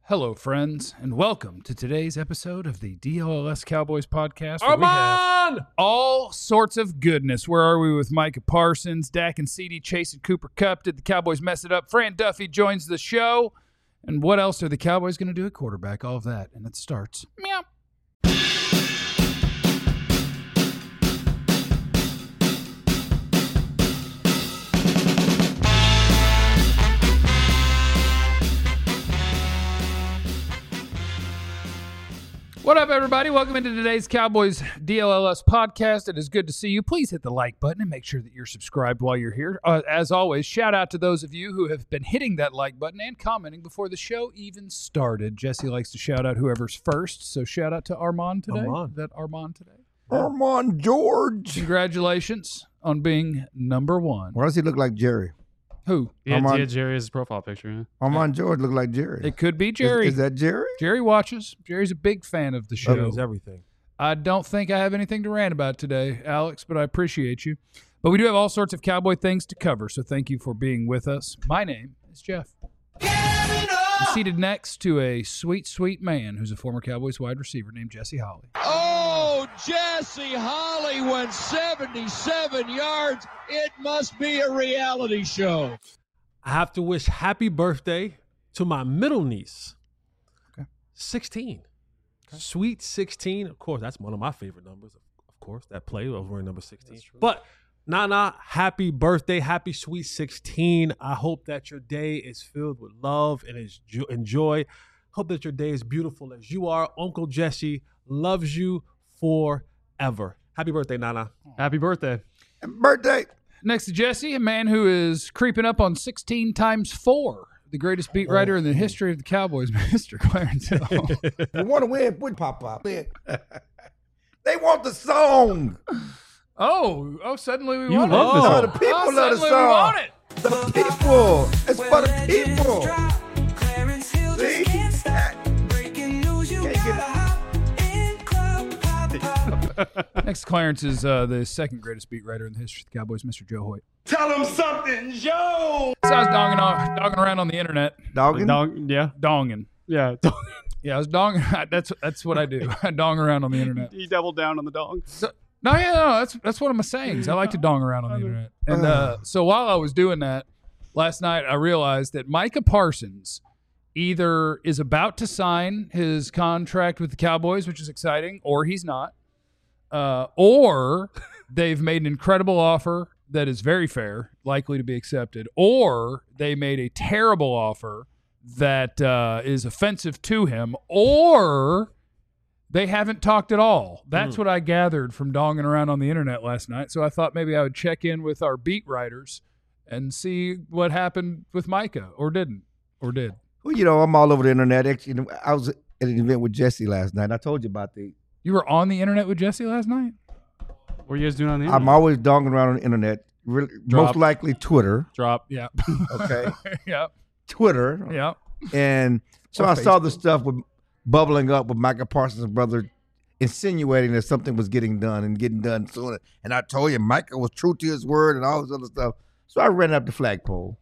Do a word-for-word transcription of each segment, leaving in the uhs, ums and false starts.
Hello, friends, and welcome to today's episode of the D L L S Cowboys podcast. Where Armand! we have all sorts of goodness. Where are we with Micah Parsons, Dak and C D chasing Cooper Kupp? Did the Cowboys mess it up? Fran Duffy joins the show. And what else are the Cowboys going to do at quarterback? All of that. And it starts. Meow. What up, everybody? Welcome into today's Cowboys D L L S podcast. It is good to see you. Please hit the like button and make sure that you're subscribed while you're here. Uh, as always, shout out to those of you who have been hitting that like button and commenting before the show even started. Jesse likes to shout out whoever's first, so shout out to Armand today. Armand. Is that Armand today? Armand George. Congratulations on being number one. Why does he look like Jerry? Who? Yeah, Armand- yeah, Jerry has his profile picture. Yeah. Armand George look like Jerry. It could be Is- Jerry. Is, that Jerry? Jerry watches. Jerry's a big fan of the show. That means everything. I don't think I have anything to rant about today, Alex, but I appreciate you. But we do have all sorts of Cowboy things to cover, so thank you for being with us. My name is Jeff. I'm seated next to a sweet, sweet man who's a former Cowboys wide receiver named Jesse Holley. Oh, Jesse Holley went seventy-seven yards. It must be a reality show. I have to wish happy birthday to my middle niece. Okay. sixteen. Sweet sixteen. Of course, that's one of my favorite numbers. Of course, that play over in number sixteen. But Nana, happy birthday. Happy sweet sixteen. I hope that your day is filled with love and is jo- and joy. Hope that your day is beautiful as you are. Uncle Jesse loves you forever. Happy birthday, Nana. Happy birthday. Birthday. Next to Jesse, a man who is creeping up on sixteen times four, the greatest beat writer in the history of the Cowboys, Mister Clarence Hill. You want to win? Put pop up. They want the song. Oh, oh, suddenly we You want love it. this Oh, song. the people oh, love the suddenly song. we want it. The people. It's for the people. See? Can't get Next to Clarence is uh, the second greatest beat writer in the history of the Cowboys, Mister Joe Hoyt. Tell him something, Joe. So I was donging, on, dogging around on the internet. Dogging? Dong, yeah, Donging. yeah. Yeah, I was dong. That's that's what I do. I dong around on the internet. He doubled down on the dong. So, no, yeah, no, that's that's one of my sayings. I like to dong around on the internet. And uh, so while I was doing that last night, I realized that Micah Parsons either is about to sign his contract with the Cowboys, which is exciting, or he's not, uh, or they've made an incredible offer that is very fair, likely to be accepted, or they made a terrible offer that uh, is offensive to him, or they haven't talked at all. That's Mm. what I gathered from donging around on the internet last night. So I thought maybe I would check in with our beat writers and see what happened with Micah, or didn't, or did. Well, you know, I'm all over the internet. Actually, you know, I was at an event with Jesse last night. I told you about the. You were on the internet with Jesse last night? What are you guys doing on the I'm internet? always donging around on the internet. Really, Drop. most likely Twitter. Drop. Yeah. Okay. yeah. Twitter. Yeah. And so Or I saw the Facebook. stuff with bubbling up with Micah Parsons' brother insinuating that something was getting done and getting done soon. And I told you, Micah was true to his word and all this other stuff. So I ran up the flagpole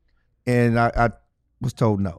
and I, I was told no.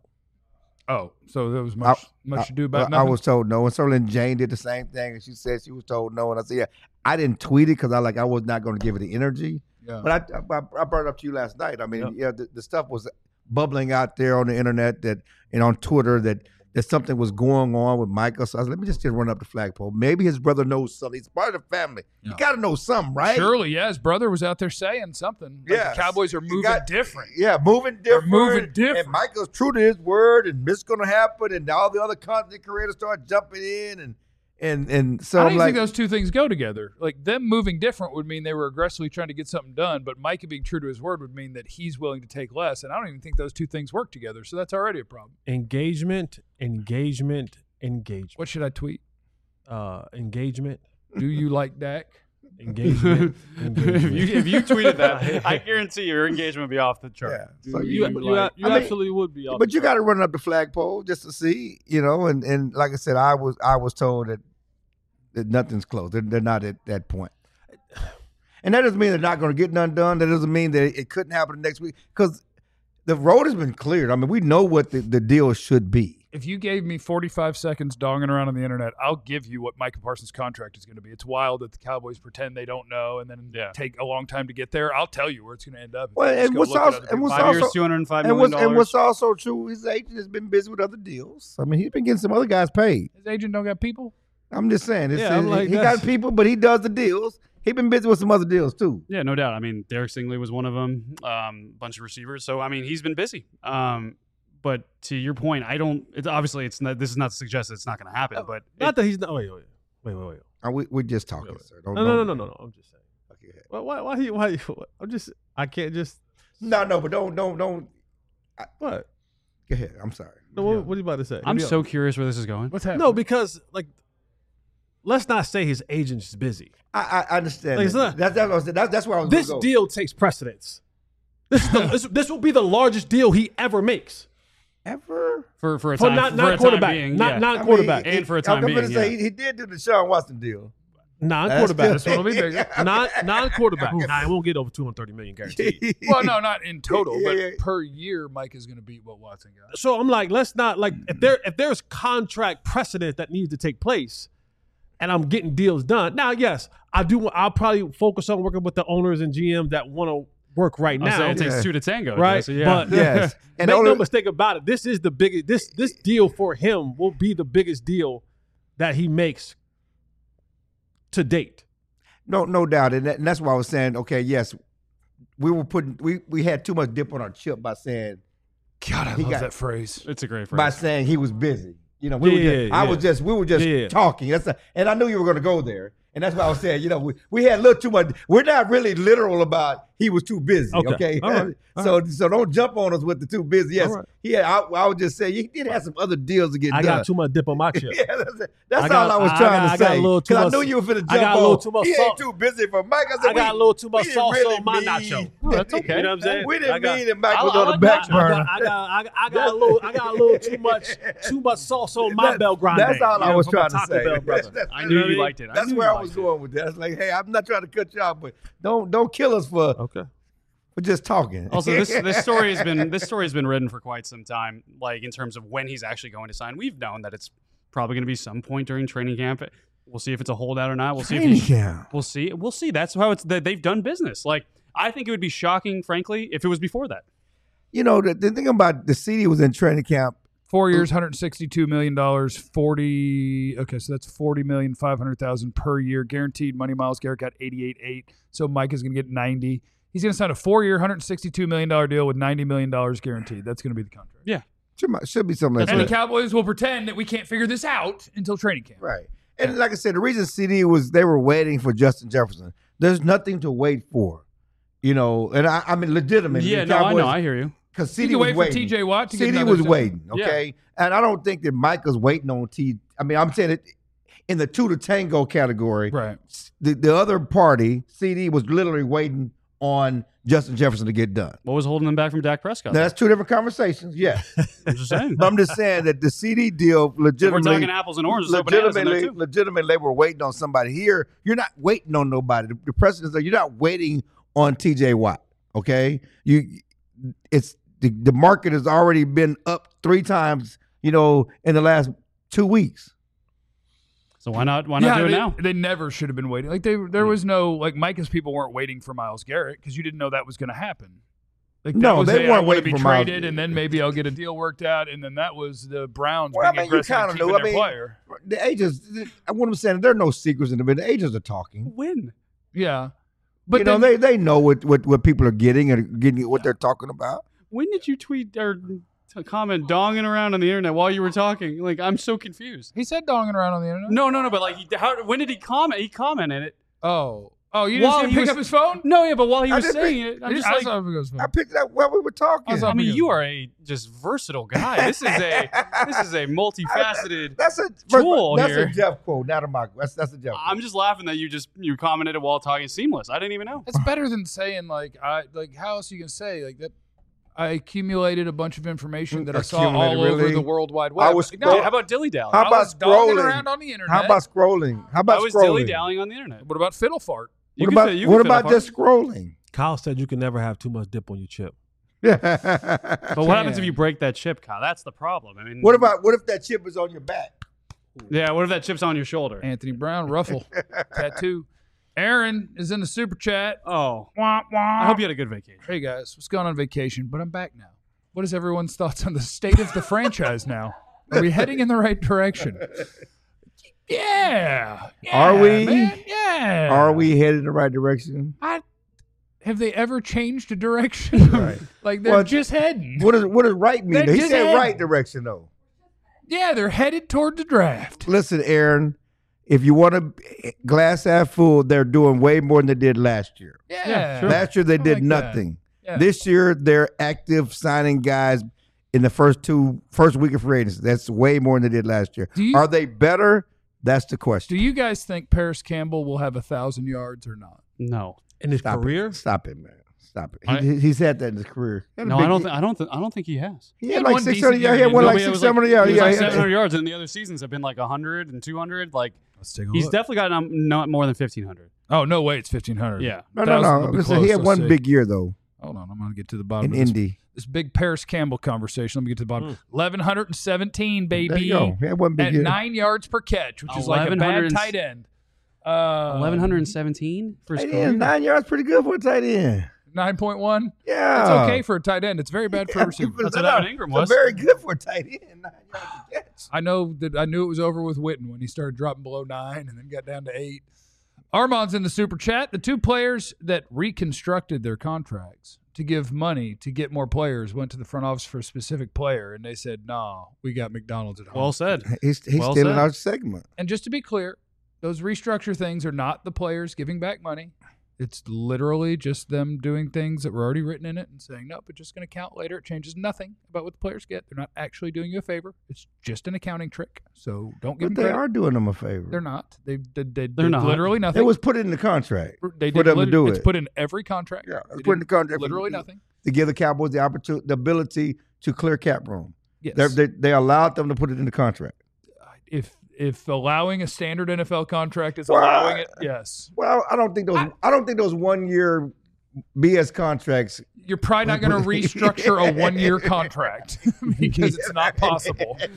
Oh, so there was much I- much to do I, about I nothing? was told no. And so then Jane did the same thing and she said she was told no. And I said, yeah, I didn't tweet it because I like I was not going to give it the energy. yeah. But I, I, I brought it up to you last night. I mean, yeah, the, the stuff was bubbling out there on the internet that and on Twitter that, that something was going on with Michael. So I said, let me just, just run up the flagpole. Maybe his brother knows something. He's part of the family. Yeah. You got to know something, right? Surely, yeah. His brother was out there saying something. Like, Yes. the Cowboys are You moving got- different. Yeah, moving different. moving different. And Michael's true to his word, and this going to happen, and all the other content creators start jumping in, and and and so How do I'm you like, think those two things go together? Like, them moving different would mean they were aggressively trying to get something done, but Micah being true to his word would mean that he's willing to take less. And I don't even think those two things work together. So that's already a problem. Engagement, engagement, engagement. What should I tweet? Uh, engagement, Do you like Dak? engagement, engagement. if, you, if you tweeted that, I guarantee your engagement would be off the chart. yeah. So you, you, you, you I mean, absolutely would be. off but the you chart. got to run up the flagpole just to see, you know. And, and like I said, I was I was told that, that nothing's close. They're, they're not at that point. And that doesn't mean they're not going to get none done. That doesn't mean that it couldn't happen next week because the road has been cleared. I mean, we know what the, the deal should be. if you gave me forty-five seconds donging around on the internet, I'll give you what Micah Parsons' contract is going to be. It's wild that the Cowboys pretend they don't know and then Yeah. take a long time to get there. I'll tell you where it's going to end up. Well, Just and go what's look at also- other and what's people. Five years, also- two hundred and five And million what's, and what's dollars. also true, his agent has been busy with other deals. I mean, he's been getting some other guys paid. His agent don't got people. I'm just saying. It's, Yeah, I'm he- like, he that's- got people, but he does the deals. He's been busy with some other deals too. Yeah, no doubt. I mean, Derek Stingley was one of them. Um, bunch of receivers. So I mean, he's been busy. Um, but to your point, I don't. It's obviously it's not. This is not to suggest it's not going to happen. But Not it, that he's not. Wait, wait, wait, wait, wait. Uh, we, we're just talking, sir. Don't, No, no, no, don't- no, no, no. I'm just saying. Okay, go ahead. Why? Why? Why? you- why you- I'm just. I can't just. No, no, but don't, don't, don't. What? Go ahead. I'm sorry. No, what, what are you about to say? I'm so curious where this is going. What's happening? No, because like, let's not say his agent's busy. I, I understand. Like, it's that. not- That's, that's, what I was- that's, that's where I was This gonna go. deal takes precedence. This is the, this, this will be the largest deal he ever makes Ever? For for a for time, not for not a time quarterback, being, not yeah. not I mean, quarterback, he- And for a I'm time gonna being, say yeah. he, he did do the Sean Watson deal. non That's quarterback, still- one will be bigger. non non quarterback. Nah, it won't get over two hundred thirty million guaranteed. Well, no, not in total, Yeah, but yeah. per year, Mike is going to beat what Watson got. So I'm like, let's not like if there if there's contract precedent that needs to take place, and I'm getting deals done. Now, yes, I do. I'll probably focus on working with the owners and G Ms that want to work right I'll say now, it takes Yeah. two to tango, right? Jesse, yeah. But Yes. And make only- no mistake about it. This is the biggest. This this deal for him will be the biggest deal that he makes to date. No, no doubt, and, that, and that's why I was saying, okay, yes, we were putting, we we had too much dip on our chip by saying, God, I He love got- that phrase. it's a great by phrase. saying he was busy. You know, we Yeah, were just, yeah, I yeah. was just, we were just Yeah. talking. That's a, and I knew you were going to go there, and that's why I was saying, you know, we, we had a little too much. We're not really literal about he was too busy. Okay. Okay, All right. All so so don't jump on us with the too busy. Yes, All right. yeah, I, I would just say he did have some other deals to get I done. got too much dip on my chip. Yeah, that's, it. That's I got- all I was I trying got- to I got say. a little too 'Cause I much- knew you were finna jump I got a on. little too much He salt. ain't too busy for Mike. I said, I got we- a little too much we didn't salsa really on my mean- nacho. Oh, that's okay. You know what I'm saying? We didn't I got- mean that Mike I- was I on the like back that. I burner. got, I got, I got, I got a little, I got a little too much, too much salsa on my That- Bel Grande. That's all you I know, was from a trying to Taco say. Bell brother. That's- that's- I you knew know what you mean? liked it. I That's knew where you I was liked it. going with that. It's like, hey, I'm not trying to cut you off, but don't don't kill us for, Okay. for just talking. Also, this this story has been this story has been written for quite some time. Like in terms of when he's actually going to sign, we've known that it's probably going to be some point during training camp. We'll see if it's a holdout or not. We'll see if Training he's, camp. we'll see. We'll see. That's how it's that they've done business. Like I think it would be shocking, frankly, if it was before that. You know, the, the thing about the C D was in training camp. Four years, one hundred sixty-two million dollars, forty. Okay, so that's forty million five hundred thousand per year guaranteed money. Miles Garrett got eighty-eight eight, so Mike is going to get ninety. He's going to sign a four-year, one hundred sixty-two million dollars deal with ninety million dollars guaranteed. That's going to be the contract. Yeah, Should, should be something like And that. the Cowboys will pretend that we can't figure this out until training camp. Right. And like I said, the reason C D was they were waiting for Justin Jefferson. There's nothing to wait for. You know, and I, I mean legitimately. yeah. the No, I Cowboys- know. I hear you. Because C You D can was wait for waiting. T J Watt to get C D another was job. waiting, Yeah. okay? And I don't think that Micah's waiting on T. I mean, I'm saying it in the two to tango category. Right. The, the other party, C D, was literally waiting on Justin Jefferson to get done. What was holding them back from Dak Prescott? Now, that's two different conversations, yeah. I'm just saying. But I'm just saying that the C D deal We're legitimately. talking apples and oranges. So bananas in there legitimately, too. legitimately, they were waiting on somebody. Here, you're not waiting on nobody. The, the precedent is that you're not waiting on T J Watt. Okay, you, it's the, the market has already been up three times. You know, in the last two weeks. So why not? Why not yeah, do it they, now? they never should have been waiting. Like they, there was no like Micah's people weren't waiting for Miles Garrett because you didn't know that was going to happen. Like that No, was, they hey, weren't I wanna waiting be for Miles traded, and then maybe I'll get a deal worked out, and then that was the Browns Well, I being mean, you aggressive and kinda keeping knew. I their mean, player. The agents, I what I'm saying, there are no secrets in the bit. The agents are talking. Win. Yeah, but you know, then- they they know what, what, what people are getting and getting what they're talking about. When did you tweet or t- comment donging around on the internet while you were talking? Like I'm so confused. he said donging around on the internet. No, no, no. But like, he, how? When did he comment? He commented it. Oh, oh, you didn't While see him he pick was- up his phone? No, yeah, but while he I was didn't saying think- it, I'm I just I like, saw him pick up his phone. I picked it up while we were talking. I saw- I mean, you are a just versatile guy. This is a this is a multifaceted. That's a tool That's here. a Jeff quote, not a Michael. That's that's a Jeff. I'm just laughing that you just you commented it while talking seamless. I didn't even know. That's better than saying like I like how else you can say like that. I accumulated a bunch of information that I saw all Accumulated, over really? the World Wide Web. I was Like, scroll- no, How about dilly dallying? How I about was dogging scrolling? around on the internet. How about scrolling? How about I was scrolling? dilly dallying on the internet. What about fiddle fart? You What could about say- you what could about fiddle just scrolling? Kyle said you can never have too much dip on your chip. But what happens if you break that chip, Kyle? That's the problem. I mean, What about what if that chip is on your back? Yeah, what if that chip's on your shoulder? Anthony Brown, ruffle, tattoo. Aaron is in the super chat. Oh, Wah, wah. I hope you had a good vacation. Hey guys, was going on vacation, but I'm back now. What is everyone's thoughts on the state of the franchise now? Are we heading in the right direction? Yeah. yeah Are we? man, yeah. Are we headed in the right direction? I, have they ever changed a direction? Right. Like they're Well, just heading. What does what does right mean? They're He just said heading. right direction though. Yeah, they're headed toward the draft. Listen, Aaron, if you want to glass half full, they're doing way more than they did last year. Yeah. Yeah, sure. Last year they I did like that. nothing. Yeah. This year they're active signing guys in the first two first week of free agency. That's way more than they did last year. Do you- Are they better? That's the Do question. you guys think Paris Campbell will have a thousand yards or not? No, In his Stop career, it. Stop it, man. Stop it. I- He, he's had that in his career. He had a no, big- I don't. Think, I don't. Think. I don't think he has. He He had had like one six decent hundred yards. He year. had one No, like but it six was seven hundred He yards. was Yeah, like yeah. seven hundred yards, and the other seasons have been like one hundred and two hundred. Like Let's take a he's look. definitely got um, not more than fifteen hundred. Oh no, wait, it's fifteen hundred. Yeah. No, no, no. Listen, he had one big year though Hold on, I'm gonna get to the bottom in of this, Indy. this big Paris Campbell conversation. Let me get to the bottom. Mm. Eleven hundred and seventeen, baby, There you go. He had one big at year. nine yards per catch, which is like a bad eleven hundred tight end. Uh, Eleven hundred and seventeen for his Tight career. end, nine yards, pretty good for a tight end. nine point one. Yeah, It's okay for a tight end. It's very bad for a receiver. That's what No, Evan Ingram it's was. Very good for a tight end. Nine yards to catch. I know that I knew it was over with Witten when he started dropping below nine and then got down to eight. Armand's in the super chat. The two players that reconstructed their contracts to give money to get more players went to the front office for a specific player, and they said, "No, we got McDonald's at home." Well said. He's he's Well stealing said. our segment. And just to be clear, those restructure things are not the players giving back money. It's literally just them doing things that were already written in it and saying, nope, it's just going to count later. It changes nothing about what the players get. They're not actually doing you a favor. It's just an accounting trick. So don't give But them they credit. are doing them a favor. They're not. They they, they, They're did not. literally nothing. It was put in the contract. they for did them to lit- do It's it. put in every contract. Yeah, They it's put in did the contract. for- Literally nothing. to give the Cowboys the opportunity, the ability to clear cap room. Yes. They're- They they allowed them to put it in the contract. if if allowing a standard N F L contract is Well, allowing it, yes. Well, I don't think those. I, don't think those one year B S contracts. You're probably not going to restructure a one-year contract because it's not possible. You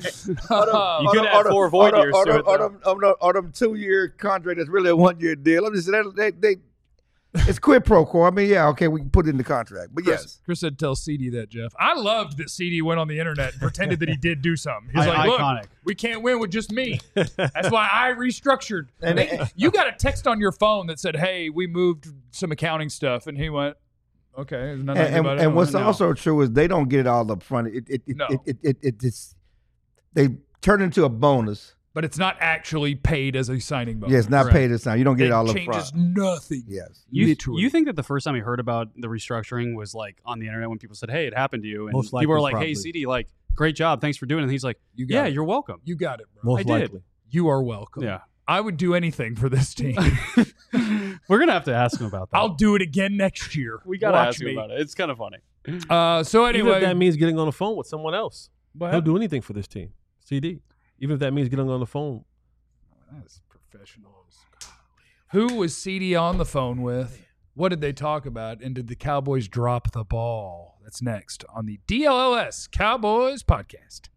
could add four void years or, to them- it, or, though. them- or, them- or them two year contract that's really a one year deal. I'm just saying they, they, it's quid pro quo. I mean, yeah, okay, we can put it in the contract, but Chris, yes, Chris said, "Tell C D that, Jeff." I loved that C D went on the internet and pretended that he did do something. He's I- like, "Look, iconic. we can't win with just me. That's why I restructured." And- They- you got a text on your phone that said, "Hey, we moved some accounting stuff," and he went, "Okay." There's nothing and, and, about it. and what's No. also true is they don't get it all up front. It it it No. it, it, it, it it's they turn into a bonus. but it's not actually paid as a signing bonus. Yeah, it's not Correct. paid this time. You don't get it, all up changes front. nothing. Yes. You, Literally. you think that the first time you heard about the restructuring was like on the internet when people said, "Hey, it happened to you," and Most people were likely, like, "Hey, probably. C D, like, great job, thanks for doing it." And he's like, You got "Yeah, it. you're welcome." You got it, bro. most I did. likely. You are welcome. Yeah, I would do anything for this team. we're gonna have to ask him about that. I'll do it again next year. we gotta Watch ask him me. about it. It's kind of funny. Uh, so Even anyway, if that means getting on the phone with someone else, What he'll happened? do anything for this team. C D. Even if that means getting on the phone. That's professional. Who was C D on the phone with? What did they talk about? And did the Cowboys drop the ball? That's next on the D L L S Cowboys podcast.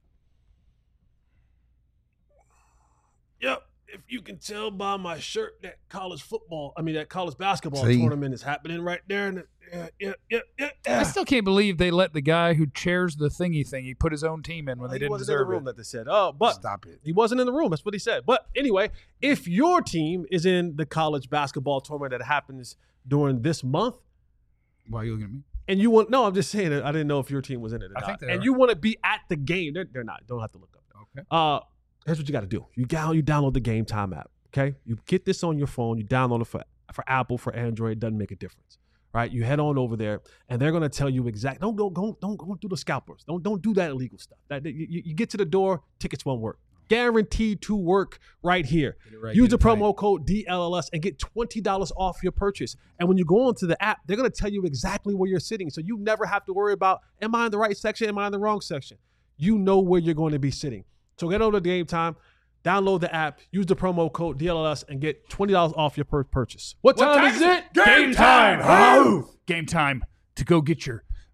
Yep. If you can tell by my shirt that college football, I mean that college basketball See? tournament is happening right there. And yeah, yeah, yeah, yeah, yeah. I still can't believe they let the guy who chairs the thingy thing, he put his own team in when they he didn't wasn't in deserve the room it. that they said. Oh, but Stop it. he wasn't in the room. That's what he said. But anyway, if your team is in the college basketball tournament that happens during this month, Why are you looking at me? and you want no, I'm just saying that I didn't know if your team was in it or I not. think they and are. you want to be at the game, they're, they're not. Don't have to look up. Okay. Uh, here's what you got to do. You down, you download the Game Time app. Okay, you get this on your phone. You download it for for Apple, for Android. It doesn't make a difference, right? You head on over there, and they're gonna tell you exact. Don't go, go don't go through the scalpers. Don't don't do that illegal stuff. That you, you get to the door, tickets won't work. Guaranteed to work right here. right, Use get the it right. promo code D L L S and get twenty dollars off your purchase. And when you go onto the app, they're gonna tell you exactly where you're sitting, so you never have to worry about am I in the right section, am I in the wrong section. You know where you're going to be sitting. So get over to Game Time. Download the app, use the promo code D L L S, and get twenty dollars off your per purchase. What time, is it? Game time. Game time to go get your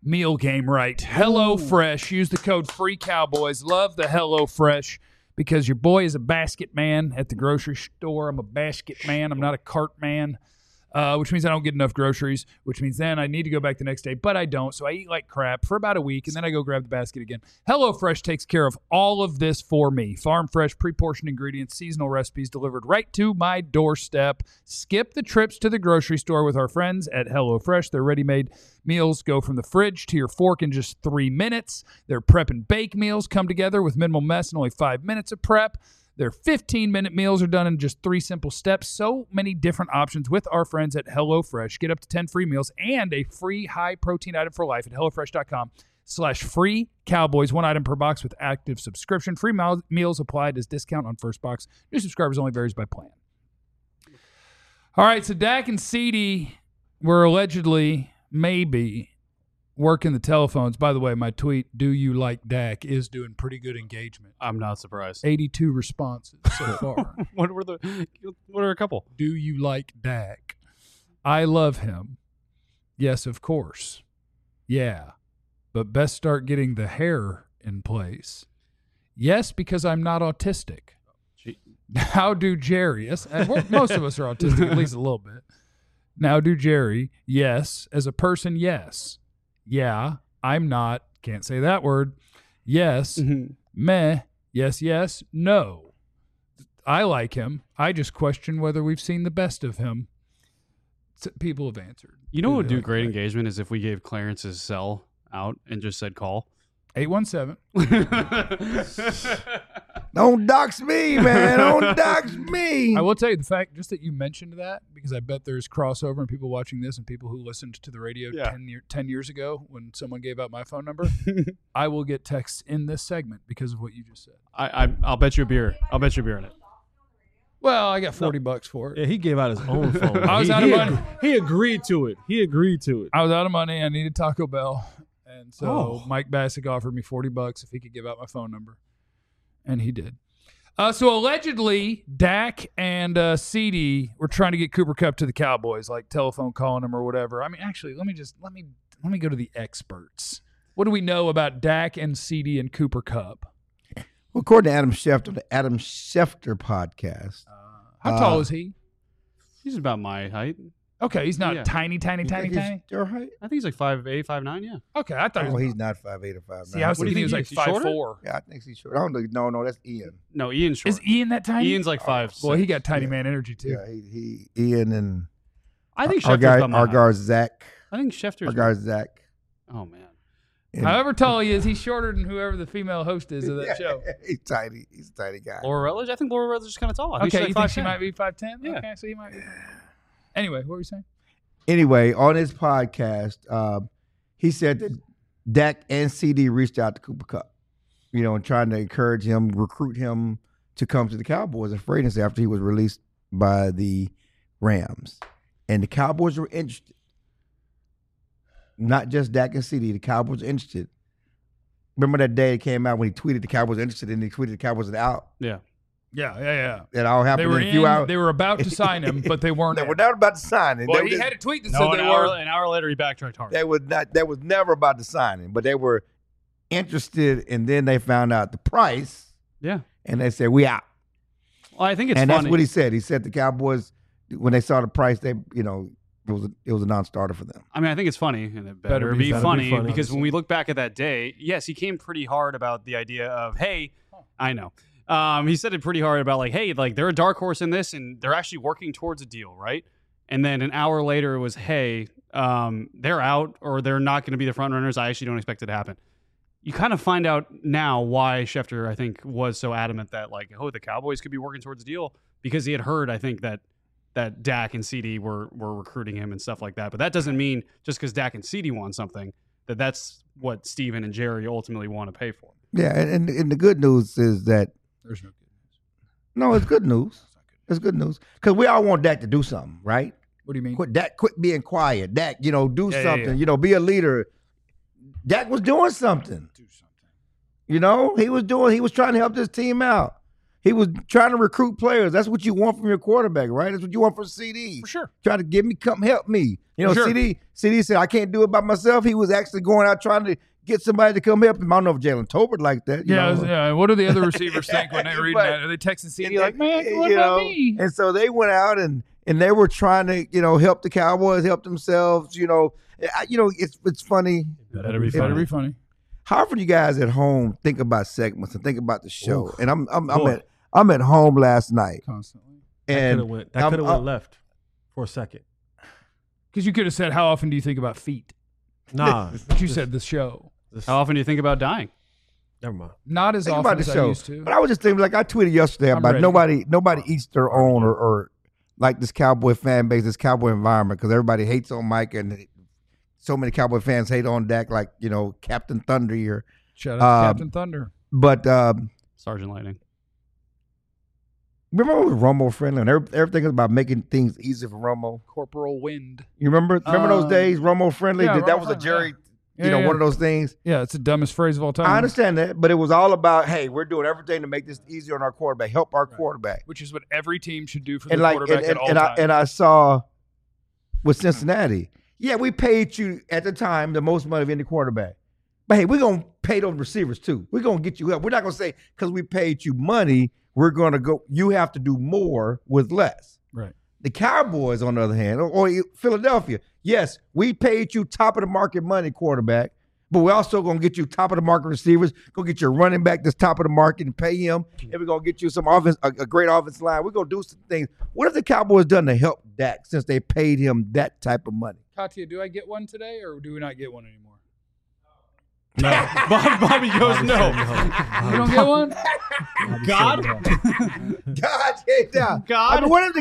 meal game right. HelloFresh. Use the code FREECowboys. Love the HelloFresh because your boy is a basket man at the grocery store. I'm a basket man. I'm not a cart man. Uh, which means I don't get enough groceries, which means then I need to go back the next day, but I don't. So I eat like crap for about a week, and then I go grab the basket again. HelloFresh takes care of all of this for me. Farm fresh, pre-portioned ingredients, seasonal recipes delivered right to my doorstep. Skip the trips to the grocery store with our friends at HelloFresh. Their ready-made meals go from the fridge to your fork in just three minutes. Their prep and bake meals come together with minimal mess and only five minutes of prep. Their fifteen-minute meals are done in just three simple steps. So many different options with our friends at HelloFresh. Get up to ten free meals and a free high-protein item for life at HelloFresh.com slash free Cowboys. One item per box with active subscription. Free meal- meals applied as discount on first box. New subscribers only varies by plan. All right, so Dak and CeeDee were allegedly, maybe, working the telephones. By the way, my tweet, do you like Dak, is doing pretty good engagement. I'm not surprised. eighty-two responses so far. What were the? What are a couple? Do you like Dak? I love him. Yes, of course. Yeah, but best start getting the hair in place. Yes, because I'm not autistic. Gee. Now do Jerry. Yes, and we're- most of us are autistic, at least a little bit. Now do Jerry. Yes, as a person, yes. Yeah, I'm not. Can't say that word. Yes. Mm-hmm. Meh. Yes, yes. No. I like him. I just question whether we've seen the best of him. S- People have answered. You know what would they do like great Dak? engagement is if we gave Clarence's cell out and just said call. eight one seven. Don't dox me, man. Don't dox me. I will tell you the fact, just that you mentioned that, because I bet there's crossover and people watching this and people who listened to the radio Yeah. ten, year, ten years ago when someone gave out my phone number. I will get texts in this segment because of what you just said. I, I I'll bet you a beer. I'll bet you a beer on it. Well, I got forty bucks for it. Yeah, he gave out his own phone. I was he, out of he money. ag- He agreed to it. He agreed to it. I was out of money. I needed Taco Bell. And so Oh. Mike Bassick offered me forty bucks if he could give out my phone number. And he did. Uh, so allegedly, Dak and uh, CeeDee were trying to get Cooper Kupp to the Cowboys, like telephone calling him or whatever. I mean, actually, let me just let me let me go to the experts. What do we know about Dak and CeeDee and Cooper Kupp? Well, according to Adam Schefter, the Adam Schefter podcast. How tall Uh, is he? He's about my height. Okay, he's not yeah. tiny, tiny, You tiny, think he's tiny. your height? I think he's like five eight, five nine. Yeah. Okay, I thought he Oh, was. he's not five eight or five See, nine. I was What do you thinking he was like think he is? He's five shorter? four. Yeah, I think he's short. I don't know. No, no, that's Ian. No, Ian's short. Is Ian that tiny? Ian's like five. Well, he six. got tiny Yeah. man energy too. Yeah, he, he Ian and I think our Schefter's guy, about my our height. guy Zach, I think Schefter's. our guy Zach. Oh man. And- However tall he is, he's shorter than whoever the female host is of that Yeah, show. He's tiny. He's a tiny guy. Laura Rutledge. I think Laura Rutledge is kind of tall. I think Okay, she's you like think she 5'ten". might be five ten? Yeah. Okay, so he might be. Anyway, what were you saying? Anyway, on his podcast, um, he said that Dak and CeeDee reached out to Cooper Kupp, you know, and trying to encourage him, recruit him to come to the Cowboys in free agency after he was released by the Rams. And the Cowboys were interested. Not just Dak and CeeDee, the Cowboys were interested. Remember that day it came out when he tweeted the Cowboys were interested and he tweeted the Cowboys were out? Yeah. Yeah, yeah, yeah. That all They happened were in a few in, hours. They were about to sign him, but they weren't. They in. were not about to sign him. Well, They he were- had a tweet that No, said an they hour, were. an hour later he backtracked hard. They was not. That was never about to sign him, but they were interested, and then they found out the price, Yeah. and they said we out. Well, I think it's and funny. that's what he said. He said the Cowboys, when they saw the price, they you know it was a, it was a non-starter for them. I mean, I think it's funny, and it Better better, be- be, better be funny, funny. because when we look back at that day, yes, he came pretty hard about the idea of, hey, I know. Um, he said it pretty hard about like, hey, like they're a dark horse in this, and they're actually working towards a deal, right? And then an hour later, it was, hey, um, they're out or they're not going to be the front runners. I actually don't expect it to happen. You kind of find out now why Schefter, I think, was so adamant that like, oh, the Cowboys could be working towards a deal, because he had heard, I think, that that Dak and CeeDee were were recruiting him and stuff like that. But that doesn't mean just because Dak and CeeDee want something that that's what Steven and Jerry ultimately want to pay for. Yeah, and, and, and the good news is that There's no good news. no, it's good news. It's good news because we all want Dak to do something, right? What do you mean? Quit Dak, quit being quiet. Dak, you know, do Yeah, yeah, something. yeah. You know, be a leader. Dak was doing something. Do something. You know, he was doing. He was trying to help this team out. He was trying to recruit players. That's what you want from your quarterback, right? That's what you want from C D. For sure. Trying to get me, come help me. You know, For sure. C D, C D said, I can't do it by myself. He was actually going out trying to get somebody to come help him. I don't know if Jalen Tolbert like that. You Yeah, know? yeah. What do the other receivers think when they read But- that? Are they texting C D And like, they- man, what you about know, me? And so they went out and and they were trying to, you know, help the Cowboys, help themselves. You know, I, you know, it's it's funny. Better be It- Better funny. be funny. How often you guys at home think about segments and think about the show? Oof. And I'm I'm I'm Boy. at I'm at home last night, Constantly. That could and have went. That I'm- could have I'm- went left for a second. Because you could have said, how often do you think about feet? Nah, But you said the show. this, How often do you think about dying? never mind. Not as think often about as the I show. used to. But I was just thinking, like I tweeted yesterday I'm about ready. nobody nobody eats their own or, or like this Cowboy fan base, this Cowboy environment, because everybody hates on Mike and so many Cowboy fans hate on Dak, like you know Captain Thunder here. Shout out to Um, Captain Thunder. But um, Sergeant Lightning. remember when Romo friendly and every- everything was about making things easy for Romo? Corporal Wind. You remember? Remember those Um, days, Romo friendly? yeah, that, that Romo was a friendly, Jerry, Yeah, you know, yeah, one of those things. Yeah, it's the dumbest phrase of all time. I understand that, but it was all about, hey, we're doing everything to make this easier on our quarterback, help our quarterback. Which is what every team should do for And their like, and, quarterback and, at all and I times. and I saw with Cincinnati, yeah, we paid you at the time the most money of any quarterback, but hey, we're gonna pay those receivers too. We're gonna get you help. We're not gonna say because we paid you money, we're gonna go. You have to do more with less. Right. The Cowboys, on the other hand, or, or Philadelphia, yes, we paid you top of the market money quarterback, but we're also going to get you top of the market receivers, go get your running back that's top of the market and pay him, and we're going to get you some offense, a, a great offensive line. We're going to do some things. What have the Cowboys done to help Dak since they paid him that type of money? Katya, do I get one today or do we not get one anymore? No, Bob, Bobby goes no. You don't get one? God? God, get down. God? I mean, what have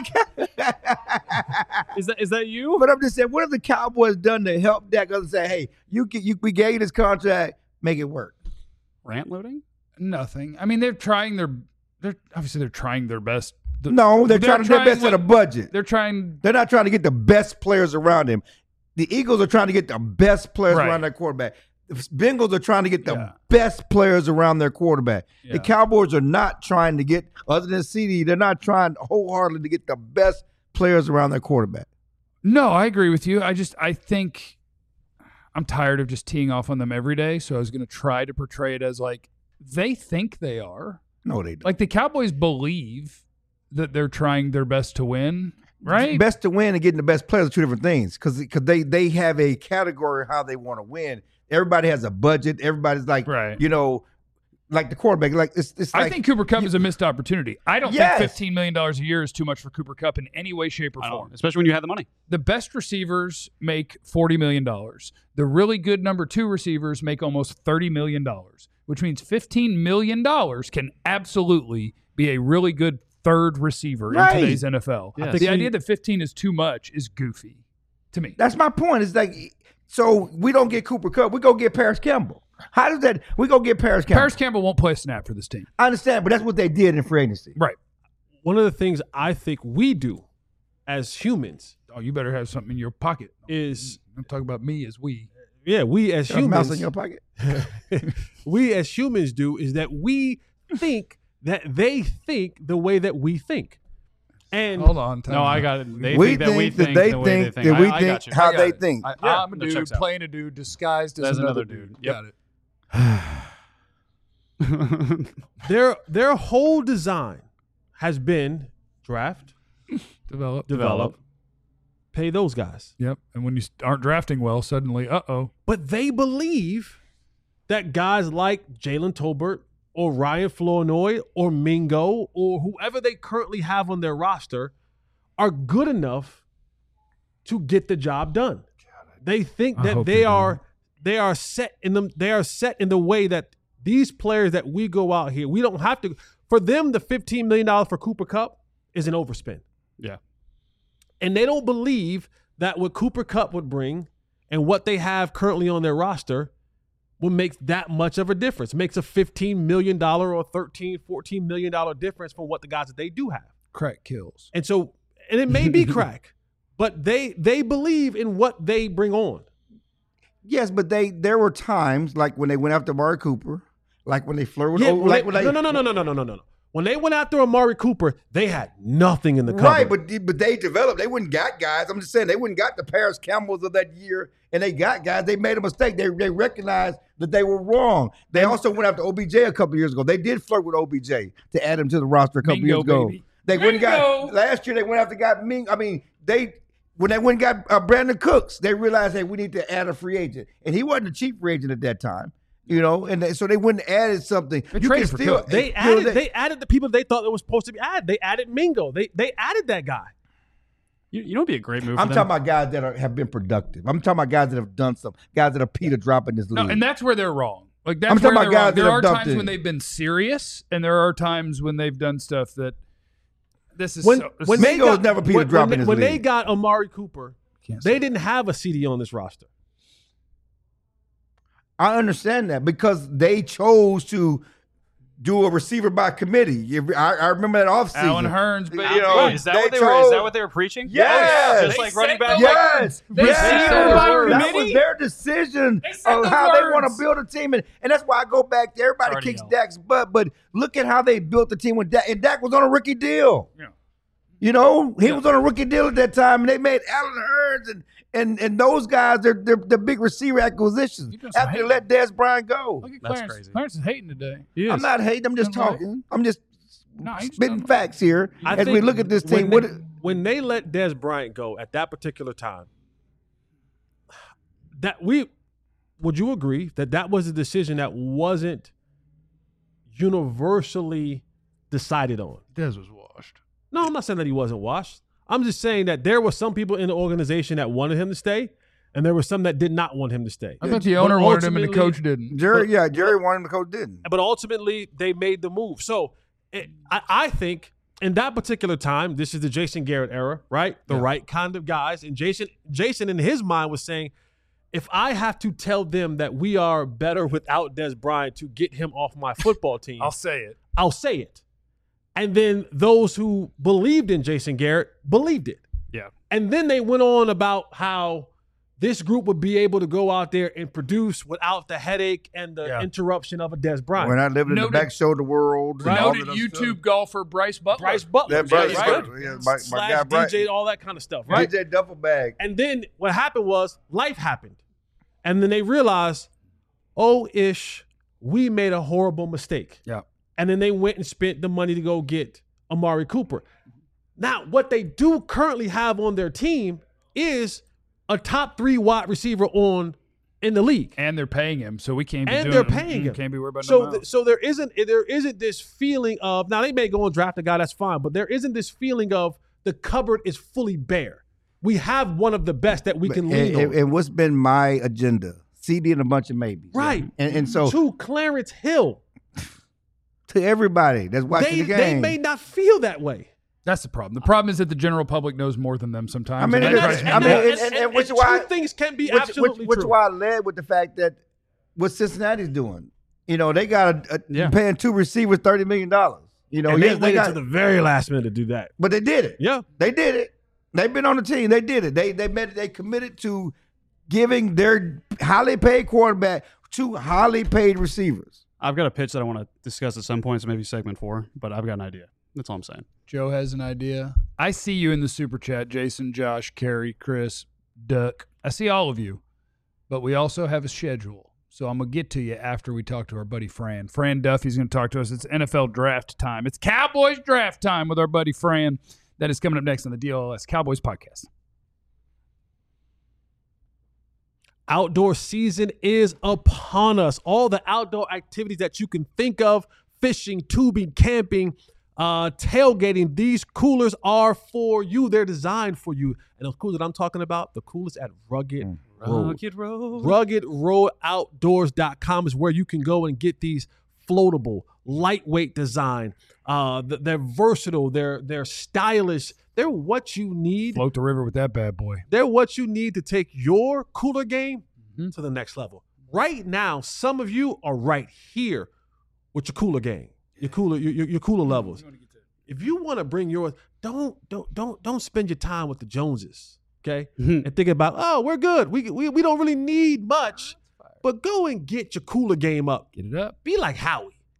the Is that is that you? But I'm just saying, what have the Cowboys done to help Dak? Other than say, hey, you, can, you we gave you this contract, make it work. Rant loading? Nothing. I mean, they're trying their. They're obviously they're trying their best. The- No, they're, trying to do their best what- at a budget. They're trying. They're not trying to get the best players around him. The Eagles are trying to get the best players Right. around their quarterback. The Bengals are trying to get the Yeah. best players around their quarterback. Yeah. The Cowboys are not trying to get, other than C D, they're not trying wholeheartedly to get the best players around their quarterback. No, I agree with you. I just I think I'm tired of just teeing off on them every day. So I was going to try to portray it as like they think they are. No, they don't. Like the Cowboys believe that they're trying their best to win, right? Best to win and getting the best players are two different things because they, they have a category of how they want to win. Everybody has a budget. Everybody's like, Right. you know, like the quarterback. Like it's, it's like I think Cooper Cup is a missed opportunity. I don't Yes. think fifteen million dollars a year is too much for Cooper Cup in any way, shape, or I don't form. know, especially when you have the money. The best receivers make forty million dollars. The really good number two receivers make almost thirty million dollars, which means fifteen million dollars can absolutely be a really good third receiver Right. in today's N F L. Yes. The think idea he- that fifteen is too much is goofy to me. That's my point. It's like, so we don't get Cooper Cup. We go get Paris Campbell. How does that? We go get Paris Campbell. Paris Campbell won't play a snap for this team. I understand, but that's what they did in free agency. Right. One of the things I think we do as humans Oh, you better have something in your pocket. is, I'm talking about me as we. yeah, we as Got a mouse humans, in your pocket. we as humans do is that we think that they think the way that we think. And Hold on. time No, I out. got it. They we think that we think they the way they think think. that we I, I think got you. how I got they it. think. I, Yeah, I'm a that dude checks out. playing a dude disguised as As another, another dude. dude. Yep. Got it. their their whole design has been draft, Develop. develop, pay those guys. Yep. And when you aren't drafting well, suddenly, uh oh. But they believe that guys like Jalen Tolbert or Ryan Flournoy or Mingo or whoever they currently have on their roster are good enough to get the job done. They think I that hope they they do. are they are set in them they are set in the way that these players that we go out here, we don't have to for them the fifteen million dollars for Cooper Kupp is an overspend. Yeah. And they don't believe that what Cooper Kupp would bring and what they have currently on their roster would make that much of a difference. It makes a fifteen million dollars or thirteen, fourteen million dollars difference from what the guys that they do have. Crack kills. And so, and it may be crack, but they they believe in what they bring on. Yes, but they there were times like when they went after Amari Cooper, like when they flirted with, Yeah, oh, when like they- when they, no, no, no, no, no, no, no, no, no. When they went after Amari Cooper, they had nothing in the cupboard. Right, but but they developed. They wouldn't got guys. I'm just saying they wouldn't got the Paris Campbells of that year, and they got guys. They made a mistake. They they recognized that they were wrong. They also went after O B J a couple years ago. They did flirt with O B J to add him to the roster a couple Mingo, years ago. baby. They went and Mingo. got last year. They went after got Ming. I mean, they when they went and got uh, Brandon Cooks, they realized, hey, we need to add a free agent, and he wasn't a cheap free agent at that time. You know, and they, so they wouldn't added something. They you traded can for still Cook. They you know, added they- they added the people they thought that was supposed to be added. They added Mingo. They they added that guy. You, you know, it'd be a great move. I'm for talking them? about guys that are, have been productive. I'm talking about guys that have done something. Guys that are Peter dropping this league. No, and that's where they're wrong. Like that's I'm talking where about they're guys wrong. that There have are dumped times in. when they've been serious, and there are times when they've done stuff that this is When so, when Mingo they was got, never Peter when, dropping when, his when they league. got Amari Cooper, Can't they say didn't have a C D on this roster. I understand that because they chose to do a receiver by committee. You- I, I remember that offseason. Alan Hearns, but You know, Wait, is that they what they were? Is chose- that what they were preaching? Yes. just They like said running back. those- Yes, They yes. said by that committee? was their decision They said of those how they want words. to build a team, and, and that's why I go back. To everybody Already kicks know. Dak's butt, but look at how they built the team with Dak, and Dak was on a rookie deal. Yeah. You know, he was on a rookie deal at that time, and they made Alan Hearns and and and those guys. They're they're the big receiver acquisitions You doing some after they hating. let Dez Bryant go. Look at That's Clarence. crazy. Clarence is hating today. He is. I'm not hating. I'm just Right. talking. I'm just No, he's spitting done. facts here I as we think look at this when team. They, What? when they let Dez Bryant go at that particular time, that we would you agree that that was a decision that wasn't universally decided on? Dez was washed. No, I'm not saying that he wasn't washed. I'm just saying that there were some people in the organization that wanted him to stay, and there were some that did not want him to stay. I bet the But owner wanted him and the ultimately- coach didn't. Jerry, yeah, Jerry wanted him, the coach didn't. But ultimately, they made the move. So it, I, I think in that particular time, this is the Jason Garrett era, right? The right kind of guys. And Jason, Jason in his mind was saying, if I have to tell them that we are better without Dez Bryant to get him off my football team, I'll say it. I'll say it. And then those who believed in Jason Garrett believed it. Yeah. And then they went on about how this group would be able to go out there and produce without the headache and the Yeah. interruption of a Dez Bryant. We're not living in the Noted- back shoulder world. and all Noted that YouTube stuff. golfer Bryce Butler. Bryce Butler, Yeah, Bryce right? Butler, yeah, my- my Slash guy Bryce. D J, all that kind of stuff, right? D J duffel bag. And then what happened was life happened. And then they realized, oh, ish, we made a horrible mistake. Yeah. And then they went and spent the money to go get Amari Cooper. Now, what they do currently have on their team is a top three wide receiver on in the league. And they're paying him, so we can't be And doing they're it. paying Mm, him. Can't be worried about So, no th- so there isn't there isn't this feeling of now they may go and draft a guy that's fine, but there isn't this feeling of the cupboard is fully bare. We have one of the best that we can lean and, and, on. and what's been my agenda? C D and a bunch of maybes. Right. And, and so to Clarence Hill, to everybody that's watching they, the they game. may not feel that way. That's the problem. The problem is that the general public knows more than them sometimes. I mean, and it that is- drives me I mean, nuts. and- and which two why- things can be which, absolutely which, which true. why I led with the fact that what Cincinnati's doing. You know, they got a, a Yeah. paying two receivers thirty million dollars. You know, and yes, they they waited got, to the very last minute to do that. but they did it. Yeah. They did it. They've been on the team. They did it. They they made they committed to giving their highly paid quarterback two highly paid receivers. I've got a pitch that I want to discuss at some point, so maybe segment four, but I've got an idea. That's all I'm saying. Joe has an idea. I see you in the super chat, Jason, Josh, Kerry, Chris, Duck. I see all of you, but we also have a schedule. So I'm going to get to you after we talk to our buddy Fran. Fran Duffy's going to talk to us. It's N F L draft time. It's Cowboys draft time with our buddy Fran. That is coming up next on the D L L S Cowboys podcast. Outdoor season is upon us. All the outdoor activities that you can think of, fishing, tubing, camping, uh, tailgating, these coolers are for you. They're designed for you. And the coolers that I'm talking about, the coolers at Rugged Road. Rugged Road. Rugged Road Outdoors dot com is where you can go and get these floatable, lightweight design. Uh, th- they're versatile. They're they're stylish. They're what you need. Float the river with that bad boy. They're what you need to take your cooler game Mm-hmm. to the next level. Right now, some of you are right here with your cooler game, your cooler, your, your, your cooler levels. If you want to bring yours, don't don't don't don't spend your time with the Joneses, okay? And think about, oh, we're good. We we we don't really need much, but go and get your cooler game up. Get it up. Be like Howie.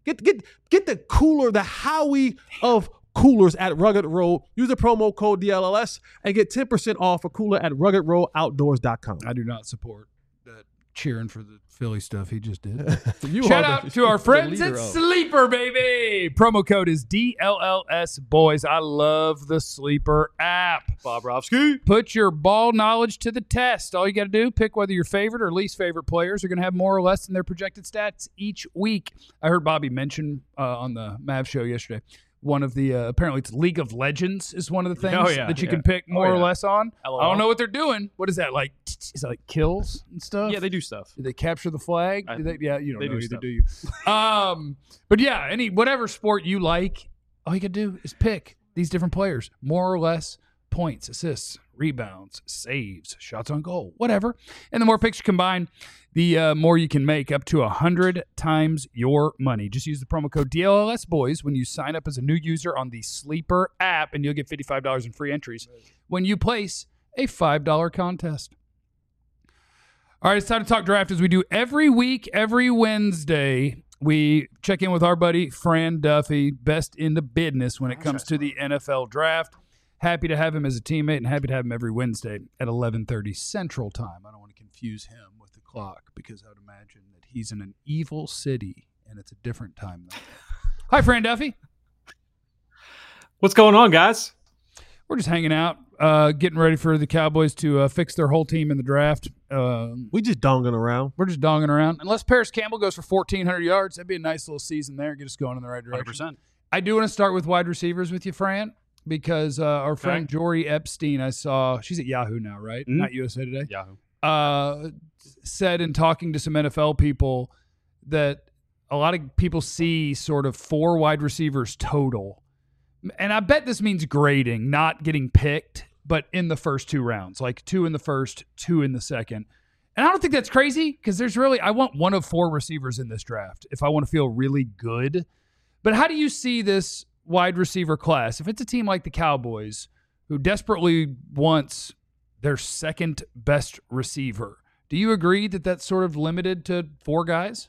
Get get get the cooler, the Howie of coolers at Rugged Road. Use the promo code D L L S and get ten percent off a cooler at rugged road outdoors dot com. I do not support that cheering for the Philly stuff he just did. You Shout are out the- to our the friends leader at of- Sleeper, baby. Promo code is D L L S boys. I love the Sleeper app. Bobrovsky. Put your ball knowledge to the test. All you got to do, pick whether your favorite or least favorite players are going to have more or less than their projected stats each week. I heard Bobby mention uh, on the Mav show yesterday, one of the, uh, apparently it's League of Legends is one of the things Oh, yeah, that you yeah. can pick more Oh, or yeah. less on. L O L. I don't know what they're doing. What is that, like, is that like kills and stuff? Yeah, they do stuff. Do they capture the flag? I- Do they, yeah, you don't they know do either, stuff. do you? um, but yeah, any whatever sport you like, all you can do is pick these different players, more or less points, assists, rebounds, saves, shots on goal, whatever. And the more picks you combine, the uh, more you can make, up to one hundred times your money. Just use the promo code D L L S boys when you sign up as a new user on the Sleeper app, and you'll get fifty-five dollars in free entries when you place a five dollar contest. All right, it's time to talk draft as we do every week, every Wednesday. We check in with our buddy, Fran Duffy, best in the business when it comes to the N F L draft. Happy to have him as a teammate and happy to have him every Wednesday at eleven thirty Central Time. I don't want to confuse him with the clock because I would imagine that he's in an evil city and it's a different time zone. Hi, Fran Duffy. What's going on, guys? We're just hanging out, uh, getting ready for the Cowboys to uh, fix their whole team in the draft. Um, We just donging around. We're just donging around. Unless Paris Campbell goes for fourteen hundred yards, that'd be a nice little season there. Get us going in the right one direction. hundred percent. I do want to start with wide receivers with you, Fran, because uh, our friend Okay. Jory Epstein, I saw, she's at Yahoo now, right? Mhm. Not U S A Today. Yahoo. Uh, said in talking to some N F L people that a lot of people see sort of four wide receivers total. And I bet this means grading, not getting picked, but in the first two rounds, like two in the first, two in the second. And I don't think that's crazy because there's really, I want one of four receivers in this draft if I want to feel really good. But how do you see this wide receiver class? If it's a team like the Cowboys who desperately wants their second best receiver, do you agree that that's sort of limited to four guys?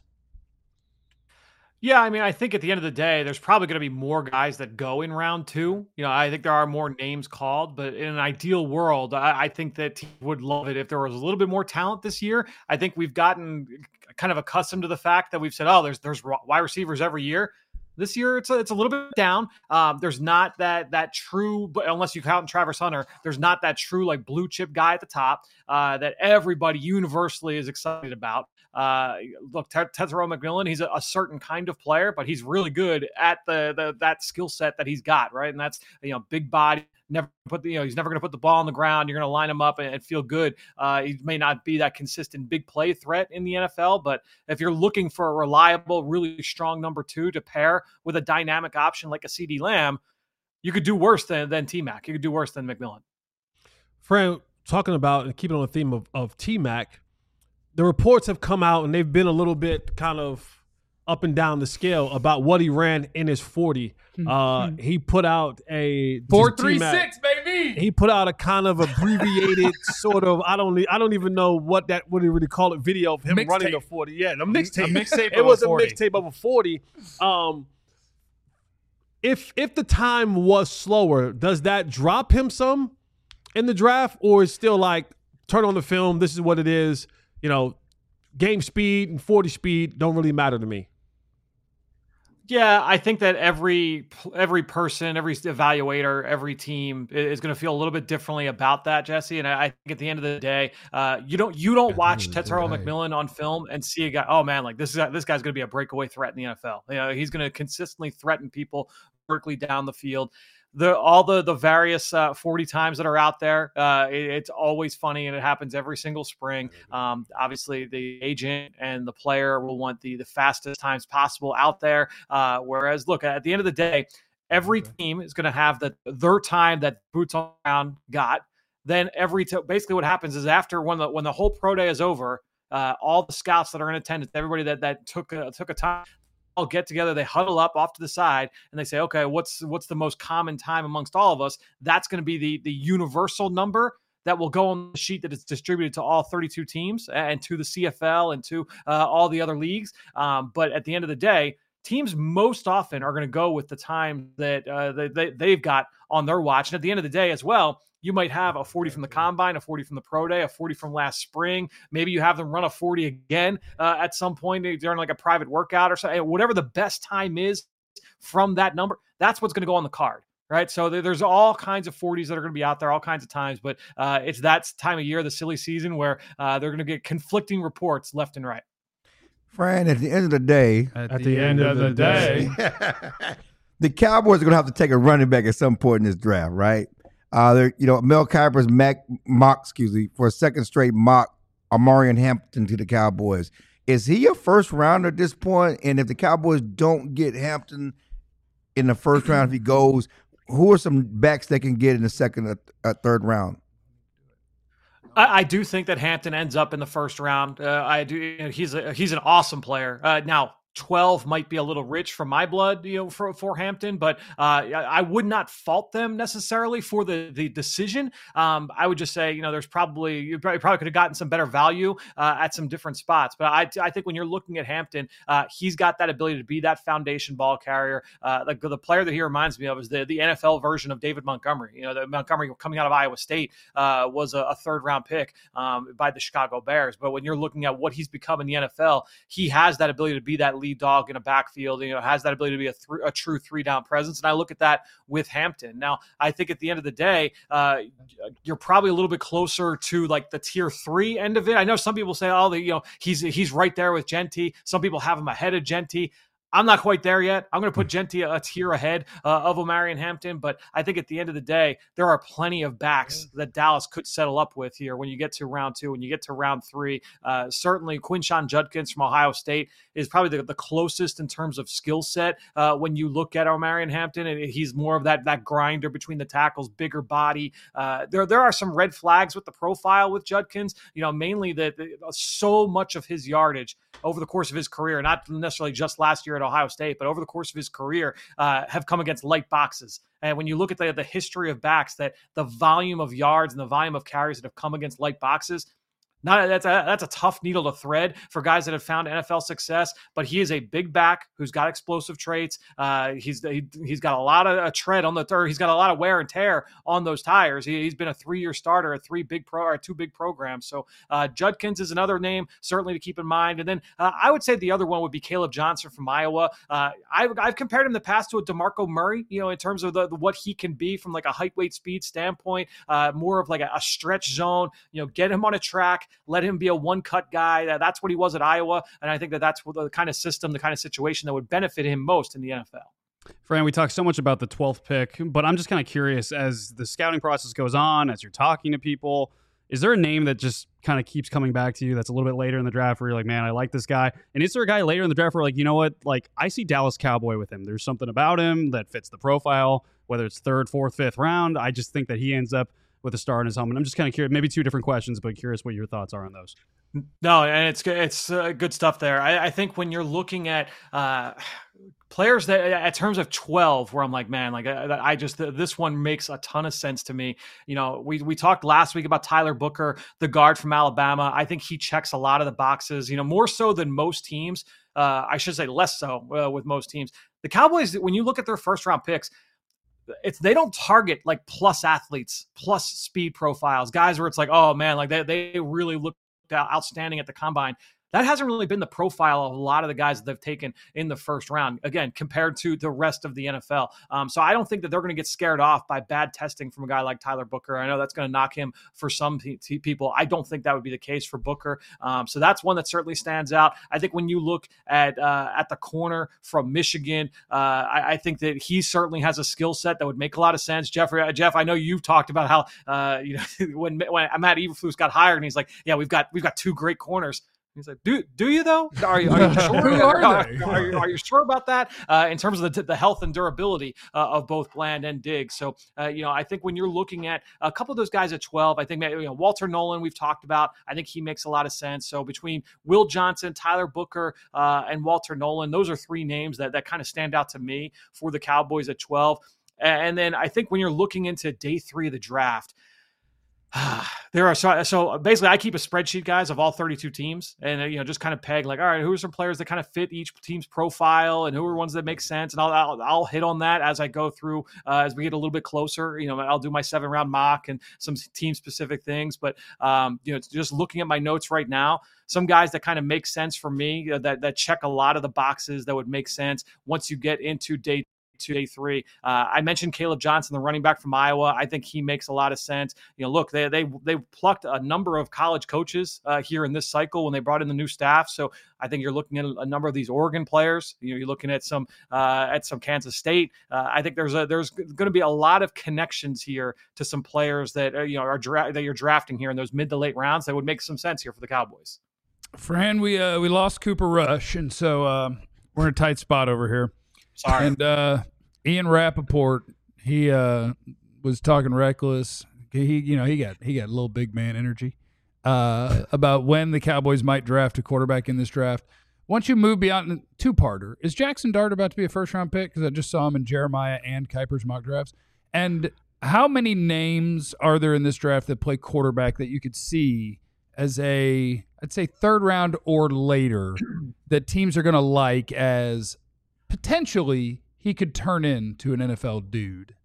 Yeah, I mean, I think at the end of the day, there's probably going to be more guys that go in round two. You know, I think there are more names called, but in an ideal world, I, I think that teams would love it if there was a little bit more talent this year. I think we've gotten kind of accustomed to the fact that we've said, oh, there's there's wide receivers every year. This year, it's a, it's a little bit down. Um, there's not that that true, but unless you count Travis Hunter, there's not that true like blue chip guy at the top uh, that everybody universally is excited about. Uh, look, Tetairoa McMillan, he's a, a certain kind of player, but he's really good at the, the that skill set that he's got, right? And that's, you know, big body. Never put the, you know, he's never going to put the ball on the ground. You're going to line him up and, and feel good. Uh, he may not be that consistent big play threat in the N F L, but if you're looking for a reliable, really strong number two to pair with a dynamic option like a CeeDee Lamb, you could do worse than than T-Mac. You could do worse than McMillan. Fran, talking about and keeping on the theme of, of T-Mac, the reports have come out and they've been a little bit kind of up and down the scale about what he ran in his forty. Uh, he put out a Four, three, T-Mac. six, baby. He put out a kind of abbreviated sort of I don't I don't even know what that what do you really call it video of him Mixtape. running the forty. Yeah, the mixtape. mixtape It of was a a forty. mixtape of a forty. Um, if if the time was slower, does that drop him some in the draft, or is still like turn on the film? This is what it is. You know, game speed and forty speed don't really matter to me. Yeah, I think that every every person, every evaluator, every team is going to feel a little bit differently about that, Jesse. And I think at the end of the day, uh, you don't you don't watch Tetairoa McMillan on film and see a guy. Oh man, like this is this guy's going to be a breakaway threat in the N F L. You know, he's going to consistently threaten people vertically down the field. The all the the various uh, forty times that are out there, uh, it, it's always funny, and it happens every single spring. Um, obviously, the agent and the player will want the the fastest times possible out there. Uh, whereas, look, at the end of the day, every team is going to have the their time that boots on the ground got. Then every t- basically what happens is after when the when the whole pro day is over, uh, all the scouts that are in attendance, everybody that that took a, took a time. All get together, they huddle up off to the side, and they say, okay, what's what's the most common time amongst all of us? That's going to be the the universal number that will go on the sheet that is distributed to all thirty-two teams and to the C F L and to uh, all the other leagues. Um, but at the end of the day, teams most often are going to go with the time that uh, they, they, they've got on their watch. And at the end of the day as well, you might have a forty from the combine, a forty from the pro day, a forty from last spring. Maybe you have them run a forty again uh, at some point during like a private workout or something. Whatever the best time is from that number, that's what's going to go on the card, right? So there's all kinds of forties that are going to be out there, all kinds of times, but uh, it's that time of year, the silly season, where uh, they're going to get conflicting reports left and right. Fran, at the end of the day, At, At the, end, of the day, the Cowboys are going to have to take a running back at some point in this draft, right? Uh, they're, you know, Mel Kiper's mock, mock, excuse me, for a second straight mock, Omarion Hampton to the Cowboys. Is he a first rounder at this point? And if the Cowboys don't get Hampton in the first round, if he goes, who are some backs they can get in the second or, or third round? I, I do think that Hampton ends up in the first round. Uh, I do. You know, he's a, he's an awesome player. Uh, now, twelve might be a little rich for my blood, you know, for, for Hampton, but uh, I would not fault them necessarily for the, the decision. Um, I would just say, you know, there's probably, you probably, probably could have gotten some better value uh, at some different spots. But I, I think when you're looking at Hampton, uh, he's got that ability to be that foundation ball carrier. Uh, like the player that he reminds me of is the, the N F L version of David Montgomery. You know, the Montgomery coming out of Iowa State uh, was a, a third round pick um, by the Chicago Bears. But when you're looking at what he's become in the N F L, he has that ability to be that lead dog in a backfield, you know, has that ability to be a, th- a true three down presence. And I look at that with Hampton. Now, I think at the end of the day, uh, you're probably a little bit closer to like the tier three end of it. I know some people say, oh, the, you know, he's, he's right there with Genty. Some people have him ahead of Genty. I'm not quite there yet. I'm going to put Genty a, a tier ahead uh, of Omarion Hampton, but I think at the end of the day, there are plenty of backs that Dallas could settle up with here when you get to round two, when you get to round three. Uh, certainly, Quinshon Judkins from Ohio State is probably the, the closest in terms of skill set uh, when you look at Omarion Hampton, and he's more of that that grinder between the tackles, bigger body. Uh, there, there are some red flags with the profile with Judkins, you know, mainly that so much of his yardage over the course of his career, not necessarily just last year at Ohio State, but over the course of his career, uh, have come against light boxes. And when you look at the, the history of backs, that the volume of yards and the volume of carries that have come against light boxes, Not that's a that's a tough needle to thread for guys that have found N F L success. But he is a big back who's got explosive traits. Uh, he's he, he's got a lot of a tread on the third. He's got a lot of wear and tear on those tires. He, he's been a three year starter at three big pro or two big programs. So uh, Judkins is another name certainly to keep in mind. And then uh, I would say the other one would be Caleb Johnson from Iowa. Uh, I've I've compared him in the past to a DeMarco Murray. You know, in terms of the, the what he can be from like a height, weight, speed standpoint. Uh, more of like a, a stretch zone. You know, get him on a track. Let him be a one-cut guy. That's what he was at Iowa, and I think that that's the kind of system, the kind of situation that would benefit him most in the N F L. Fran, we talked so much about the twelfth pick, but I'm just kind of curious, as the scouting process goes on, as you're talking to people, is there a name that just kind of keeps coming back to you that's a little bit later in the draft where you're like, man, I like this guy? And is there a guy later in the draft where like, you know what, like I see Dallas Cowboy with him. There's something about him that fits the profile, whether it's third, fourth, fifth round. I just think that he ends up with a star in his helmet. I'm just kind of curious, maybe two different questions, but curious what your thoughts are on those. No, and it's it's uh, good stuff there. I, I think when you're looking at uh, players that, at terms of twelve, where I'm like, man, like I, I just this one makes a ton of sense to me. You know, we we talked last week about Tyler Booker, the guard from Alabama. I think he checks a lot of the boxes. You know, more so than most teams. Uh, I should say less so uh, with most teams. The Cowboys, when you look at their first round picks, it's they don't target like plus athletes, plus speed profiles, guys where it's like, oh man, like they they really look outstanding at the combine. That hasn't really been the profile of a lot of the guys that they've taken in the first round, again, compared to the rest of the N F L. Um, so I don't think that they're going to get scared off by bad testing from a guy like Tyler Booker. I know that's going to knock him for some p- t- people. I don't think that would be the case for Booker. Um, so that's one that certainly stands out. I think when you look at uh, at the corner from Michigan, uh, I, I think that he certainly has a skill set that would make a lot of sense. Jeffrey, uh, Jeff, I know you've talked about how uh, you know when when Matt Eberflus got hired, and he's like, yeah, we've got we've got two great corners. He's like, do do you though? Are you, are you sure? Who are they? Are, are, you, are you sure about that uh, in terms of the, the health and durability uh, of both Bland and Diggs? So, uh, you know, I think when you're looking at a couple of those guys at twelve, I think you know, Walter Nolan, we've talked about. I think he makes a lot of sense. So between Will Johnson, Tyler Booker, uh, and Walter Nolan, those are three names that that kind of stand out to me for the Cowboys at twelve. And then I think when you're looking into day three of the draft, There are so, so basically I keep a spreadsheet, guys, of all thirty-two teams, and uh, you know just kind of peg like, all right, who are some players that kind of fit each team's profile, and who are ones that make sense, and I'll I'll, I'll hit on that as I go through uh, as we get a little bit closer. You know, I'll do my seven round mock and some team specific things, but um, you know, just looking at my notes right now, some guys that kind of make sense for me uh, that that check a lot of the boxes that would make sense once you get into day two, day three. Uh, I mentioned Caleb Johnson, the running back from Iowa. I think he makes a lot of sense. You know, look, they they they plucked a number of college coaches uh, here in this cycle when they brought in the new staff. So I think you're looking at a number of these Oregon players. You know, you're looking at some uh, at some Kansas State. Uh, I think there's a there's going to be a lot of connections here to some players that uh, you know are dra- that you're drafting here in those mid to late rounds that would make some sense here for the Cowboys. Fran, we uh, we lost Cooper Rush, and so uh, we're in a tight spot over here. Sorry. And uh, Ian Rappaport, he uh, was talking reckless. He, you know, he got he got a little big man energy uh, about when the Cowboys might draft a quarterback in this draft. Once you move beyond two-parter, is Jackson Dart about to be a first-round pick? Because I just saw him in Jeremiah and Kuiper's mock drafts. And how many names are there in this draft that play quarterback that you could see as a, I'd say, third round or later that teams are going to like as potentially he could turn into an N F L dude?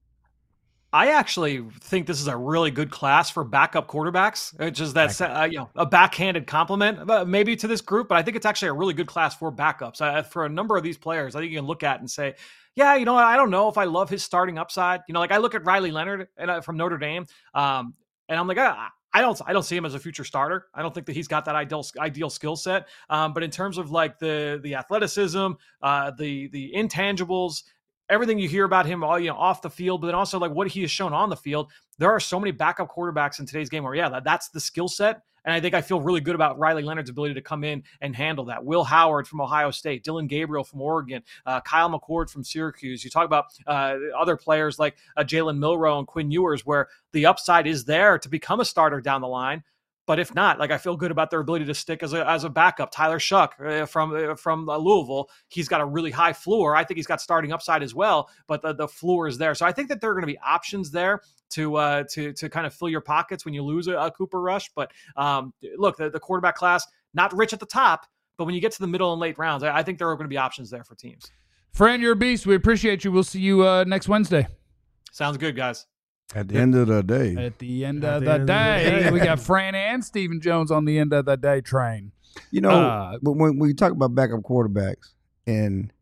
I actually think this is a really good class for backup quarterbacks. It's just that uh, you know a backhanded compliment uh, maybe to this group, but I think it's actually a really good class for backups. Uh, for a number of these players, I think you can look at and say, yeah, you know, I don't know if I love his starting upside. You know, like I look at Riley Leonard and uh, from Notre Dame, um, and I'm like, ah, I don't, I don't see him as a future starter. I don't think that he's got that ideal, ideal skill set. Um, but in terms of like the, the athleticism, uh, the, the intangibles, everything you hear about him, all you know, off the field, but then also like what he has shown on the field, there are so many backup quarterbacks in today's game where, yeah, that, that's the skill set. And I think I feel really good about Riley Leonard's ability to come in and handle that. Will Howard from Ohio State, Dylan Gabriel from Oregon, uh, Kyle McCord from Syracuse. You talk about uh, other players like uh, Jalen Milroe and Quinn Ewers, where the upside is there to become a starter down the line. But if not, like I feel good about their ability to stick as a as a backup. Tyler Shuck uh, from uh, from uh, Louisville, he's got a really high floor. I think he's got starting upside as well, but the, the floor is there. So I think that there are going to be options there to uh, to to kind of fill your pockets when you lose a, a Cooper Rush. But um, look, the, the quarterback class, not rich at the top, but when you get to the middle and late rounds, I, I think there are going to be options there for teams. Fran, you're a beast. We appreciate you. We'll see you uh, next Wednesday. Sounds good, guys. At the end of the day. At the end, At of, the the end of the day, day. we got Fran and Stephen Jones on the end of the day train. You know, Uh, but when, when you talk about backup quarterbacks, and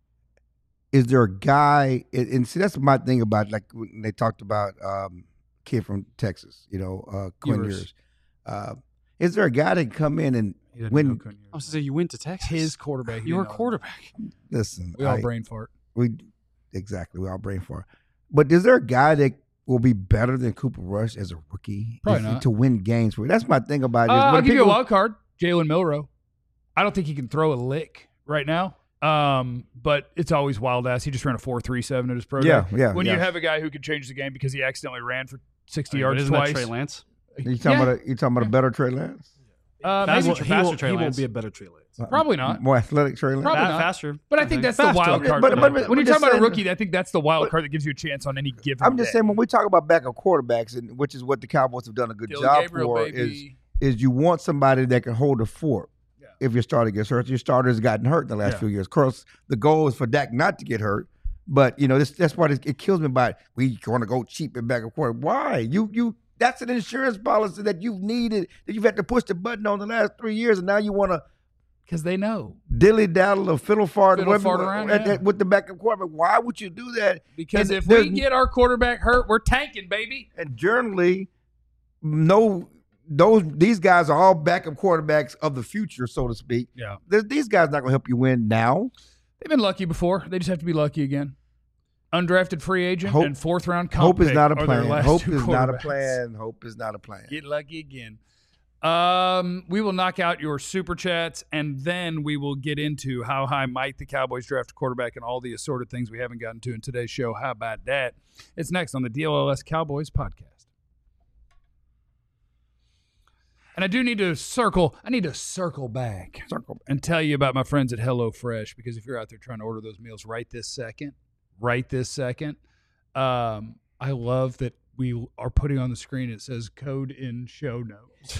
is there a guy, and, and see, that's my thing about, like, when they talked about um, kid from Texas, you know, uh, Quinn Ewers. Ewers. Uh, is there a guy that can come in and He doesn't When- know Quinn Ewers. I was to say you went to Texas. His quarterback. he You're a didn't know. quarterback. listen? We all I- brain fart. we exactly we all brain for. But is there a guy that will be better than Cooper Rush as a rookie Probably If- not. to win games for you? That's my thing about Uh, it. is I'll when give you a people- wild card. Jalen Milroe. I don't think he can throw a lick right now. Um, but it's always wild ass. He just ran a four three seven at his pro day. Yeah, yeah, When yeah. you have a guy who could change the game because he accidentally ran for sixty But yards isn't twice. that Trey Lance? You talking Yeah. about a, you talking about a better Trey Lance? Uh, Faster- maybe, He, faster won't, Trey he won't Lance. be a better Trey Lance. Probably not. More athletic Trey Lance. Probably Fa- not. faster. But I think that's the Faster. wild Okay, card. but- for but- me. but when I'm you're talking just about a saying- rookie, I think that's the wild card that gives you a chance on any given I'm just day. saying when we talk about backup quarterbacks, and which is what the Cowboys have done a good Dylan job Gabriel, for, baby. is is you want somebody that can hold the fort. Yeah. If your starter gets hurt, your starter's gotten hurt in the last Yeah. few years. Of course, the goal is for Dak not to get hurt, but you know this, that's why it, it kills me. About we want to go cheap at backup quarterback. Why you you? That's an insurance policy that you've needed that you've had to push the button on the last three years, and now you want to Because they know. dilly daddle or fiddle fart, Fiddle whatever- fart around, at- yeah. at- with the backup quarterback. Why would you do that? Because And if there's- we get our quarterback hurt, we're tanking, baby. And generally, no, those these guys are all backup quarterbacks of the future, so to speak. Yeah. There's, these guys not going to help you win now. They've been lucky before. They just have to be lucky again. Undrafted free agent Hope- and fourth round comp Hope is pick not a are their plan. last Hope two is not a quarterbacks. plan. Hope is not a plan. Get lucky again. Um, we will knock out your super chats, and then we will get into how high might the Cowboys draft a quarterback and all the assorted things we haven't gotten to in today's show. How about that? It's next on the D L L S Cowboys podcast. And I do need to circle. I need to circle back Circle. and tell you about my friends at HelloFresh, because if you're out there trying to order those meals right this second, right this second, um, I love that we are putting on the screen. It says code in show notes.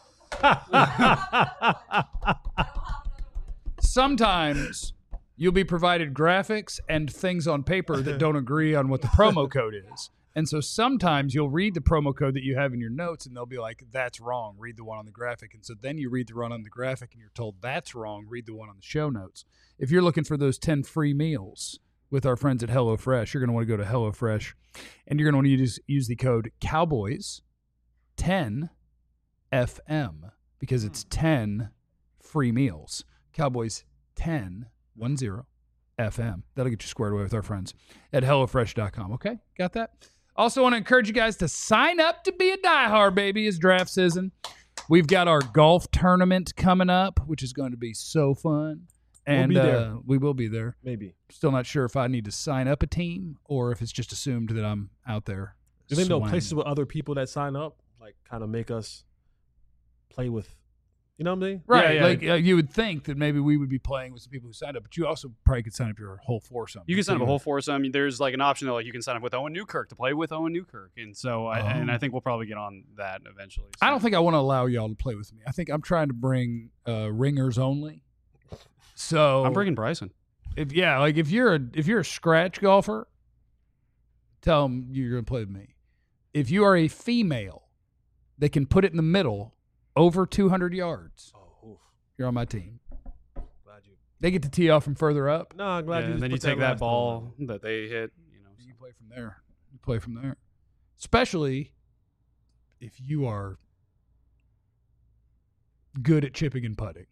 Sometimes you'll be provided graphics and things on paper that don't agree on what the promo code is. And so sometimes you'll read the promo code that you have in your notes and they'll be like, that's wrong. Read the one on the graphic. And so then you read the one on the graphic and you're told that's wrong. Read the one on the show notes. If you're looking for those ten free meals with our friends at HelloFresh, you're going to want to go to HelloFresh and you're going to want to use, use the code Cowboys ten F M because it's ten free meals. Cowboys ten, one zero, F M. That'll get you squared away with our friends at HelloFresh dot com. Okay? Got that? Also want to encourage you guys to sign up to be a diehard, baby. It's draft season. We've got our golf tournament coming up, which is going to be so fun. And We'll be there. Uh, we will be there. Maybe. Still not sure if I need to sign up a team or if it's just assumed that I'm out there. Do they know swinging. places with other people that sign up, like kind of make us play with, you know what I'm saying? Right. Yeah, yeah. Like uh, you would think that maybe we would be playing with some people who signed up, but you also probably could sign up your whole foursome. You can sign up a whole foursome. There's like an option that like you can sign up with Owen Newkirk to play with Owen Newkirk, and so I, Oh. and I think we'll probably get on that eventually. I So- don't think I want to allow y'all to play with me. I think I'm trying to bring uh, ringers only. So I'm bringing Bryson. if yeah, like if you're a if you're a scratch golfer, tell them you're going to play with me. If you are a female that can put it in the middle over two hundred yards, Oh, oof. you're on my team. Glad you. They get to tee off from further up. No, I'm glad Yeah, you. and just then you put take that last ball one. that they hit. You know, You play from there. You play from there. Especially if you are good at chipping and putting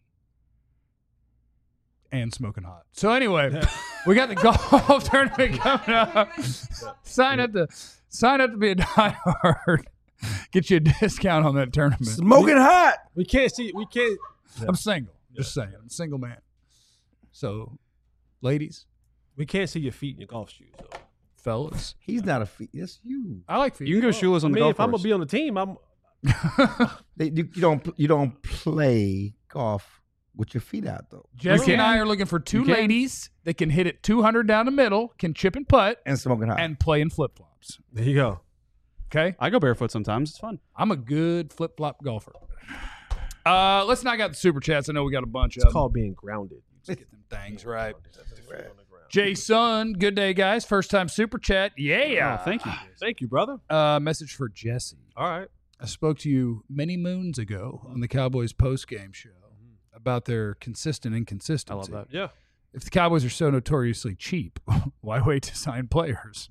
and smoking hot. So anyway, we got the golf tournament coming up. Sign up to sign up to be a diehard. Get you a discount on that tournament. Smoking hot. We can't see. We can't. I'm single. Just saying. I'm a single man. So, ladies, We can't see your feet in your golf shoes. Though. fellas, He's not a feet. That's you. I like feet. you can go shoeless I on the mean, golf if I'm course. gonna be on the team, I'm. They, you, you don't you don't play golf with your feet out though. Jesse You and can. I are looking for two You can. ladies that can hit it two hundred down the middle, can chip and putt, And smoking hot. and play in flip flops. There you go. Okay, I go barefoot sometimes. It's fun. I'm a good flip flop golfer. Uh, let's knock out the super chats. I know we got a bunch It's of called being grounded. them. Get them things right. Jason, good day, guys. First time super chat. Yeah. Oh, thank you. Thank you, brother. Uh, message for Jesse. All right. I spoke to you many moons ago on the Cowboys post game show about their consistent inconsistency. I love that. Yeah. If the Cowboys are so notoriously cheap, why wait to sign players?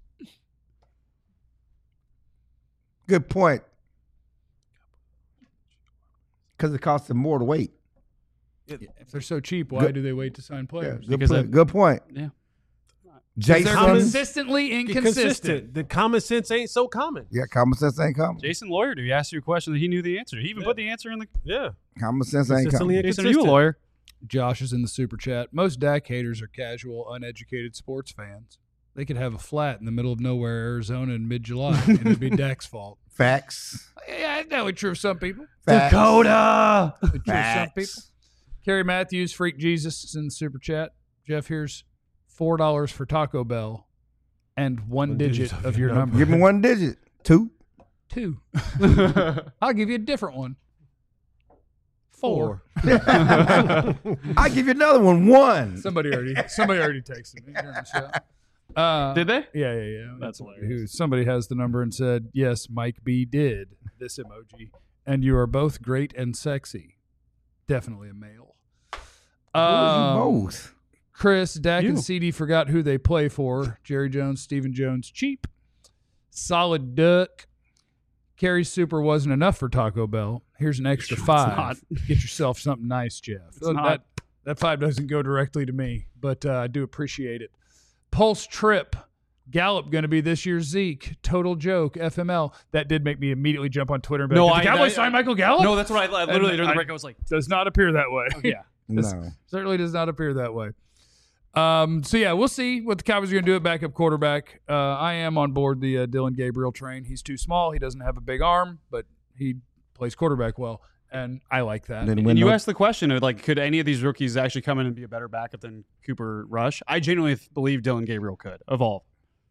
Good point. Because it costs them more to wait. If they're so cheap, why Good- do they wait to sign Yeah, players? good, Because point. I- good point. Yeah. Jason. They're Common- consistently inconsistent. Consistent. The common sense ain't so common. Yeah, common sense ain't common. Jason Lawyer, he asked you a question that he knew the answer. He even Yeah. put the answer in the. Yeah. Common sense ain't Consistently common. Jason, are you a inconsistent. lawyer? Josh is in the super chat. Most Dak haters are casual, uneducated sports fans. They could have a flat in the middle of nowhere, Arizona, in mid-July, and it'd be Dak's fault. Facts. Yeah, that would be true of some people. Facts. Dakota. Would be true of some people. Facts. Kerry Matthews, Freak Jesus, is in the super chat. Jeff, here's four dollars for Taco Bell and one, One digit, digit of your number. Give me one digit. Two. Two. I'll give you a different one. Four. I'll give you another one. One. Somebody already somebody already texted me during the show. Uh, Did they? Yeah, yeah, yeah. That's Somebody hilarious. Who, somebody has the number and said, yes, Mike B did this emoji. And you are both great and sexy. Definitely a male. Who are you Um, both? Chris, Dak You. and C D forgot who they play for. Jerry Jones, Stephen Jones, cheap. Solid duck. Carrie Super wasn't enough for Taco Bell. Here's an extra It's five. not. Get yourself something nice, Jeff. It's that, not. that five doesn't go directly to me, but uh, I do appreciate it. Pulse Trip. Gallup going to be this year's Zeke. Total joke. F M L. That did make me immediately jump on Twitter and be No, like, did the I- Cowboys I- sign Michael Gallup? No, that's what I, I literally And during the I- break I was like, Does not appear that way. yeah. No. Certainly does not appear that way. Um, so, yeah, we'll see what the Cowboys are going to do at backup quarterback. Uh, I am on board the uh, Dylan Gabriel train. He's too small. He doesn't have a big arm, but he plays quarterback well, and I like that. Then And win you no- asked the question of like, could any of these rookies actually come in and be a better backup than Cooper Rush? I genuinely th- believe Dylan Gabriel could evolve.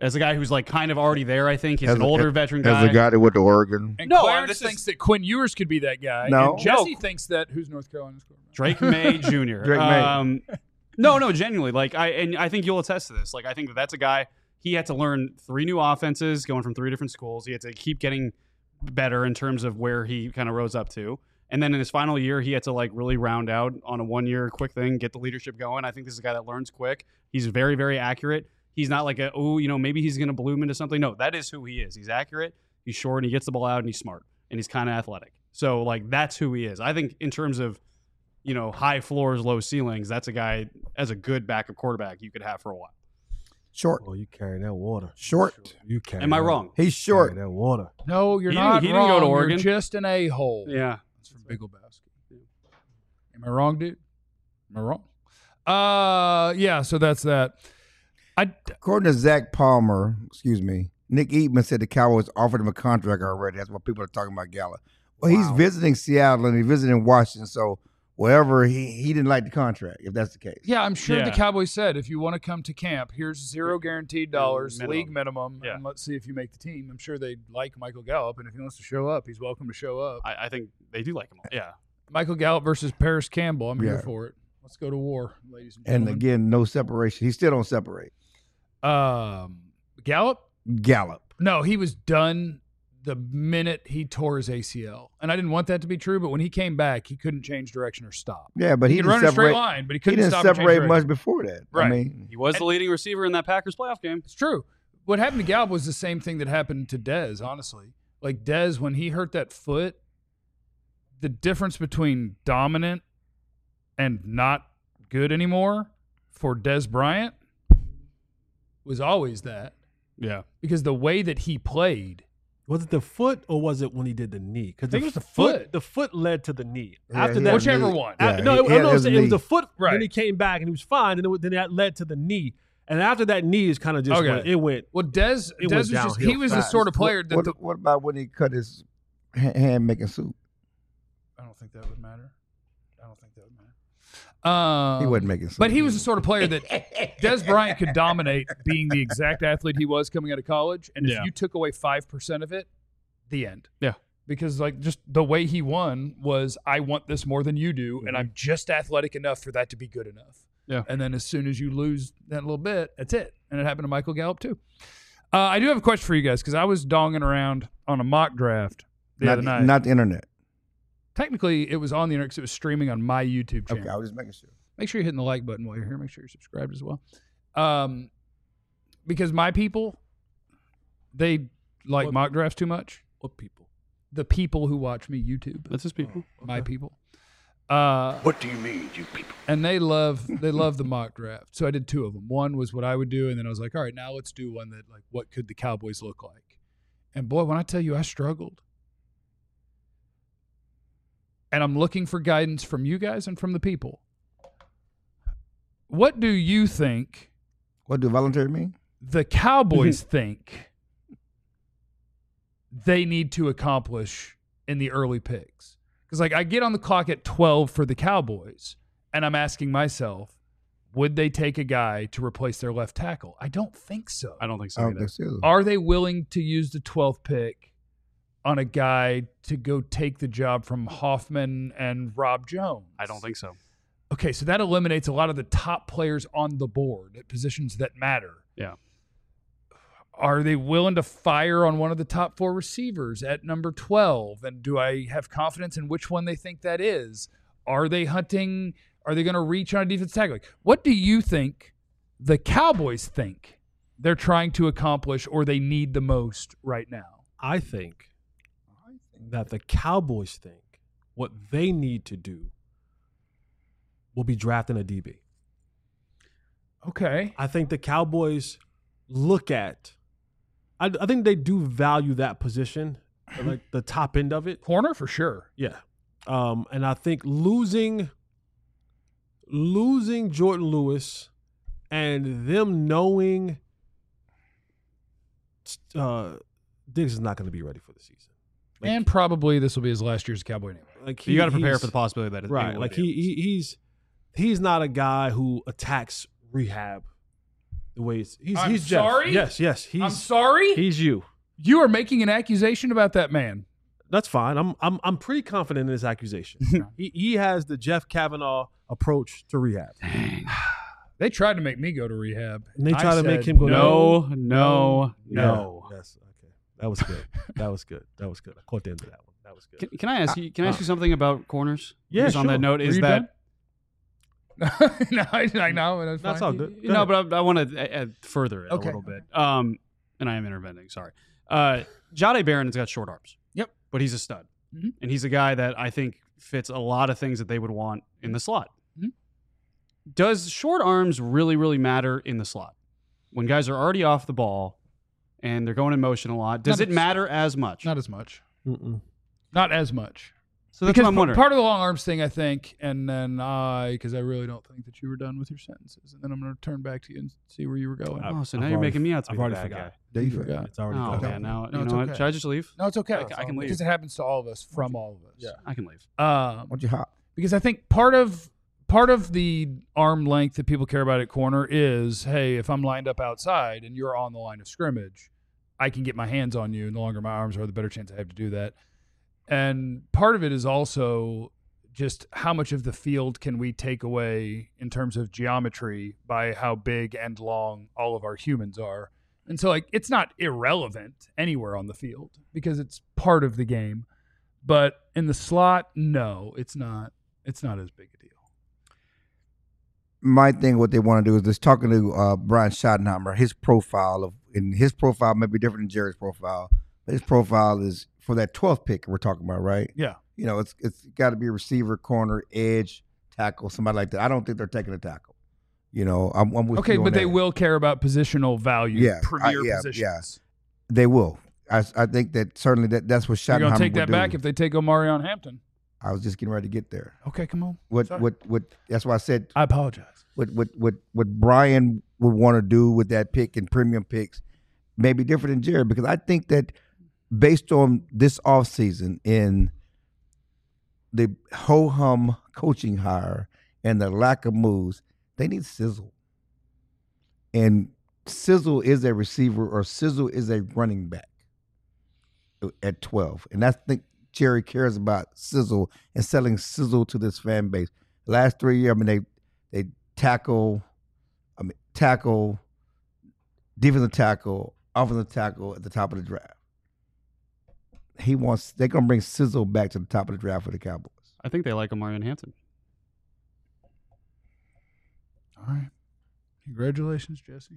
as a guy who's like kind of already there. I think he's As an a- older as- veteran As guy. a guy that went to Oregon. And No, Clarence this is- thinks that Quinn Ewers could be that guy. No. And Jesse No. thinks that who's North Carolina's quarterback? Drake May Junior Drake May. Um, no, no, genuinely. Like I and I think you'll attest to this. Like I think that that's a guy. He had to learn three new offenses, going from three different schools. He had to keep getting better in terms of where he kind of rose up to. And then in his final year, he had to like really round out on a one year quick thing, get the leadership going. I think this is a guy that learns quick. He's very, very accurate. He's not like a, oh, you know, maybe he's going to bloom into something. No, that is who he is. He's accurate. He's short and he gets the ball out and he's smart and he's kind of athletic. So like that's who he is. I think in terms of, you know, high floors, low ceilings, that's a guy as a good backup quarterback you could have for a while. Short. Oh, you carry that water. Short. You carry. Am I that- wrong? He's short. Carry that water. No, you're He didn't- not he didn't wrong. go to You're Oregon. just an a-hole. Yeah. That's from Big Lebowski. Am I wrong, dude? Am I wrong? Uh, yeah. So that's that. I According to Zach Palmer, excuse me, Nick Eatman said the Cowboys offered him a contract already. That's what people are talking about Gallup. Well, he's visiting Seattle and he's visiting Washington, so wherever he, he didn't like the contract, if that's the case. yeah, I'm sure the Yeah. Cowboys said if you want to come to camp, here's zero guaranteed dollars, Minimum. league minimum, Yeah. and let's see if you make the team. I'm sure they like Michael Gallup, and if he wants to show up, he's welcome to show up. I, I think they do like him. Yeah. Michael Gallup versus Paris Campbell. I'm here Yeah. for it. Let's go to war, ladies and And gentlemen. again, no separation. He still don't separate. um, Gallup? Gallup. No, he was done the minute he tore his A C L. And I didn't want that to be true, but when he came back, he couldn't change direction or stop. Yeah, but He, he, could didn't run a straight separate. line, but he He couldn't didn't stop and change separate direction. much before that. Right. I mean, He was the leading receiver in that Packers playoff game. It's true. What happened to Gallup was the same thing that happened to Dez, honestly. Like Dez, when he hurt that foot, the difference between dominant and not good anymore for Dez Bryant was always that. Yeah. Because the way that he played, Was it the foot or was it when he did the knee? Because think it was the foot. The foot led to the knee. Yeah, After he that, had whichever knee. one. Yeah, Uh, no, he- it, he no, had no, his it was knee. the foot. Right. Then he came back and he was fine. And then, it- then that led to the knee. And after that knee is kind of just Okay. went, it went. well, Dez, It Dez went was just, he downhill was the fast. sort of player that what, the, what about when he cut his ha- hand making soup? I don't think that would matter. I don't think that would matter. Um, He wasn't making soup. But he was the sort of player that Dez Bryant could dominate being the exact athlete he was coming out of college. And if Yeah. you took away five percent of it, the end. Yeah. Because, like, just the way he won was, I want this more than you do, and I'm just athletic enough for that to be good enough. Yeah. And then as soon as you lose that little bit, that's it. And it happened to Michael Gallup, too. Uh, I do have a question for you guys because I was donging around on a mock draft the not, other night. not the internet. Technically, it was on the internet because it was streaming on my YouTube channel. Okay, I was just making sure. Make sure you're hitting the like button while you're here. Make sure you're subscribed as well. Um, because my people, they like What- mock drafts too much. What people? The people who watch me YouTube, That's his people. my people. Uh, What do you mean, you people? and they love they love the mock draft. So I did two of them. One was what I would do, and then I was like, all right, now let's do one that like what could the Cowboys look like? And boy, when I tell you I struggled. And I'm looking for guidance from you guys and from the people. What do you think What do voluntary mean? the Cowboys think they need to accomplish in the early picks? Because, like, I get on the clock at twelve for the Cowboys, and I'm asking myself, would they take a guy to replace their left tackle? I don't think so. I don't think I so don't either. think so. Are they willing to use the twelfth pick on a guy to go take the job from Hoffman and Rob Jones? I don't think so. Okay, so that eliminates a lot of the top players on the board at positions that matter. Yeah. Are they willing to fire on one of the top four receivers at number twelve? And do I have confidence in which one they think that is? Are they hunting? Are they going to reach on a defense tackle? Like, what do you think the Cowboys think they're trying to accomplish or they need the most right now? I think that the Cowboys think what they need to do will be drafting a D B. Okay. I think the Cowboys look at, I, I think they do value that position, like the top end of it. Corner for sure. Yeah. Um, and I think losing losing Jordan Lewis and them knowing uh, Diggs is not going to be ready for the season. Like, and probably this will be his last year as a Cowboy anyway. like you got to prepare he's- for the possibility that it right. it will Like be. he, he he's he's not a guy who attacks rehab The way it's, he's I'm he's Jeff. sorry? Yes, yes. He's I'm sorry? He's you. You are making an accusation about that man. That's fine. I'm I'm I'm pretty confident in this accusation. he he has the Jeff Kavanaugh approach to rehab. They tried to make me go to rehab. And they I tried to said, make him go. No, no, Yeah. no. Yes. Okay. That was good. That was good. That was good. I caught the end of that one. That was good. Can, can I ask you? Can I ask you something about corners? Yeah, Just on sure. that note, Were is you that no, I, I know. That's, That's fine. all good. you know? But I, I want to add further it Okay. a little bit. Um, and I am interventing. Sorry. Uh, Jahdae Barron has got short arms. Yep. But he's a stud, Mhm. and he's a guy that I think fits a lot of things that they would want in the slot. Mhm. Does short arms really, really matter in the slot when guys are already off the ball and they're going in motion a lot? Does Not it as- matter as much? Not as much. Mm-mm. Not as much. so that's because what I'm p- wondering. part of the long arms thing, I think, and then I, because I really don't think that you were done with your sentences, and then I'm going to turn back to you and see where you were going. oh, so I've now you're already- making me out to I've be the already bad forgot. guy. There you you go. forgot. It's already Oh gone. man, now No, you it's know what? okay. Should I just leave? No, it's okay. I can- I can leave. because it happens to all of us, from all of us. Yeah. I can leave. Um, Why don't you hop? because I think part of part of the arm length that people care about at corner is, hey, if I'm lined up outside and you're on the line of scrimmage, I can get my hands on you, and the longer my arms are, the better chance I have to do that. And part of it is also just how much of the field can we take away in terms of geometry by how big and long all of our humans are. And so, like, it's not irrelevant anywhere on the field because it's part of the game. But in the slot, no, it's not. It's not as big a deal. My thing, what they want to do is just talking to uh, Brian Schottenheimer. His profile of, and his profile may be different than Jerry's profile. But his profile is for that twelfth pick we're talking about, right? Yeah. You know, it's it's got to be a receiver, corner, edge, tackle, somebody like that. I don't think they're taking a tackle. You know, I'm, I'm with Okay, you on but they that. will care about positional value, Yeah, premier I- yeah, positions. They will. I, I think that certainly that that's what You're Schottenheimer going to take would that do. back if they take Omarion Hampton. I was just getting ready to get there. Okay, come on. What Sorry. what what? That's why I said I apologize. what what what what Brian would want to do with that pick and premium picks may be different than Jerry, because I think that based on this offseason in the ho-hum coaching hire and the lack of moves, they need sizzle. And sizzle is a receiver or sizzle is a running back at twelve. And I think Jerry cares about sizzle and selling sizzle to this fan base. Last three years, I mean, they they tackle, I mean, tackle, defensive tackle, offensive tackle at the top of the draft. He wants, they're going to bring sizzle back to the top of the draft for the Cowboys. I think they like Omarion Hampton. All right. Congratulations, Jesse.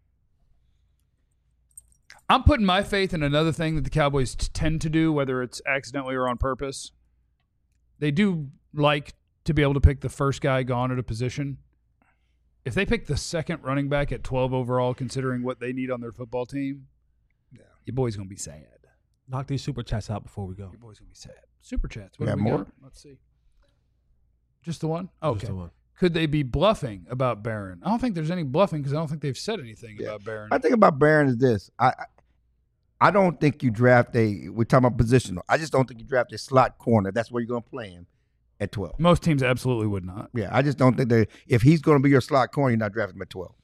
I'm putting my faith in another thing that the Cowboys t- tend to do, whether it's accidentally or on purpose. They do like to be able to pick the first guy gone at a position. If they pick the second running back at twelve overall, considering what they need on their football team, yeah, your boy's going to be sad. Knock these super chats out before we go. Your boy's going to be sad. Super chats. What We do got we more? got? Let's see. Just the one? Okay. Just the one. Could they be bluffing about Barron? I don't think there's any bluffing because I don't think they've said anything Yeah. about Barron. I think about Barron is this. I I- I don't think you draft a, we're talking about positional. I just don't think you draft a slot corner. That's where you're going to play him at twelve. Most teams absolutely would not. Yeah, I just don't think that if he's going to be your slot corner, you're not drafting him at twelve.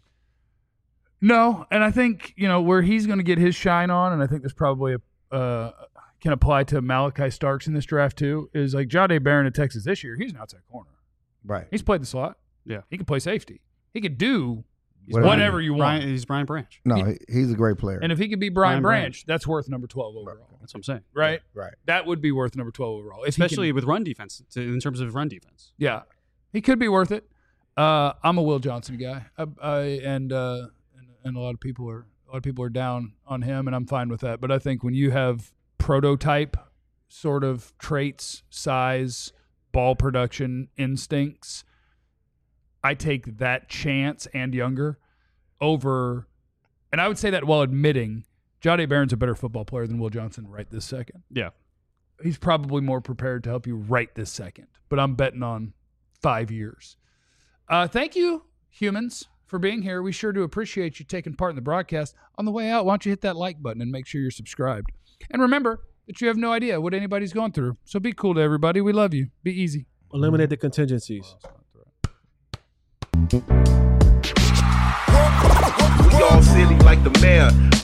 No, and I think, you know, where he's going to get his shine on, and I think this probably uh, can apply to Malachi Starks in this draft too, is like Jahdae Barron at Texas this year. He's an outside corner. Right. He's played the slot. Yeah. He can play safety. He could do Whatever. whatever you want. Brian, he's Brian Branch. No, he, he's a great player. And if he could be Brian, Brian Branch, that's worth number twelve overall. That's what I'm saying. Right? right. That would be worth number twelve overall. If he Especially can- with run defense, to, in terms of run defense. Yeah, he could be worth it. Uh, I'm a Will Johnson guy, I, I, and, uh, and and a lot of people are a lot of people are down on him, and I'm fine with that. But I think when you have prototype sort of traits, size, ball production, instincts, I take that chance and younger over, and I would say that while admitting Jahdae Barron's a better football player than Will Johnson right this second. Yeah. He's probably more prepared to help you right this second, but I'm betting on five years. Uh, thank you, humans, for being here. We sure do appreciate you taking part in the broadcast. On the way out, why don't you hit that like button and make sure you're subscribed. And remember that you have no idea what anybody's going through. So be cool to everybody. We love you. Be easy. Eliminate the contingencies. Work, work, work, city like the mayor.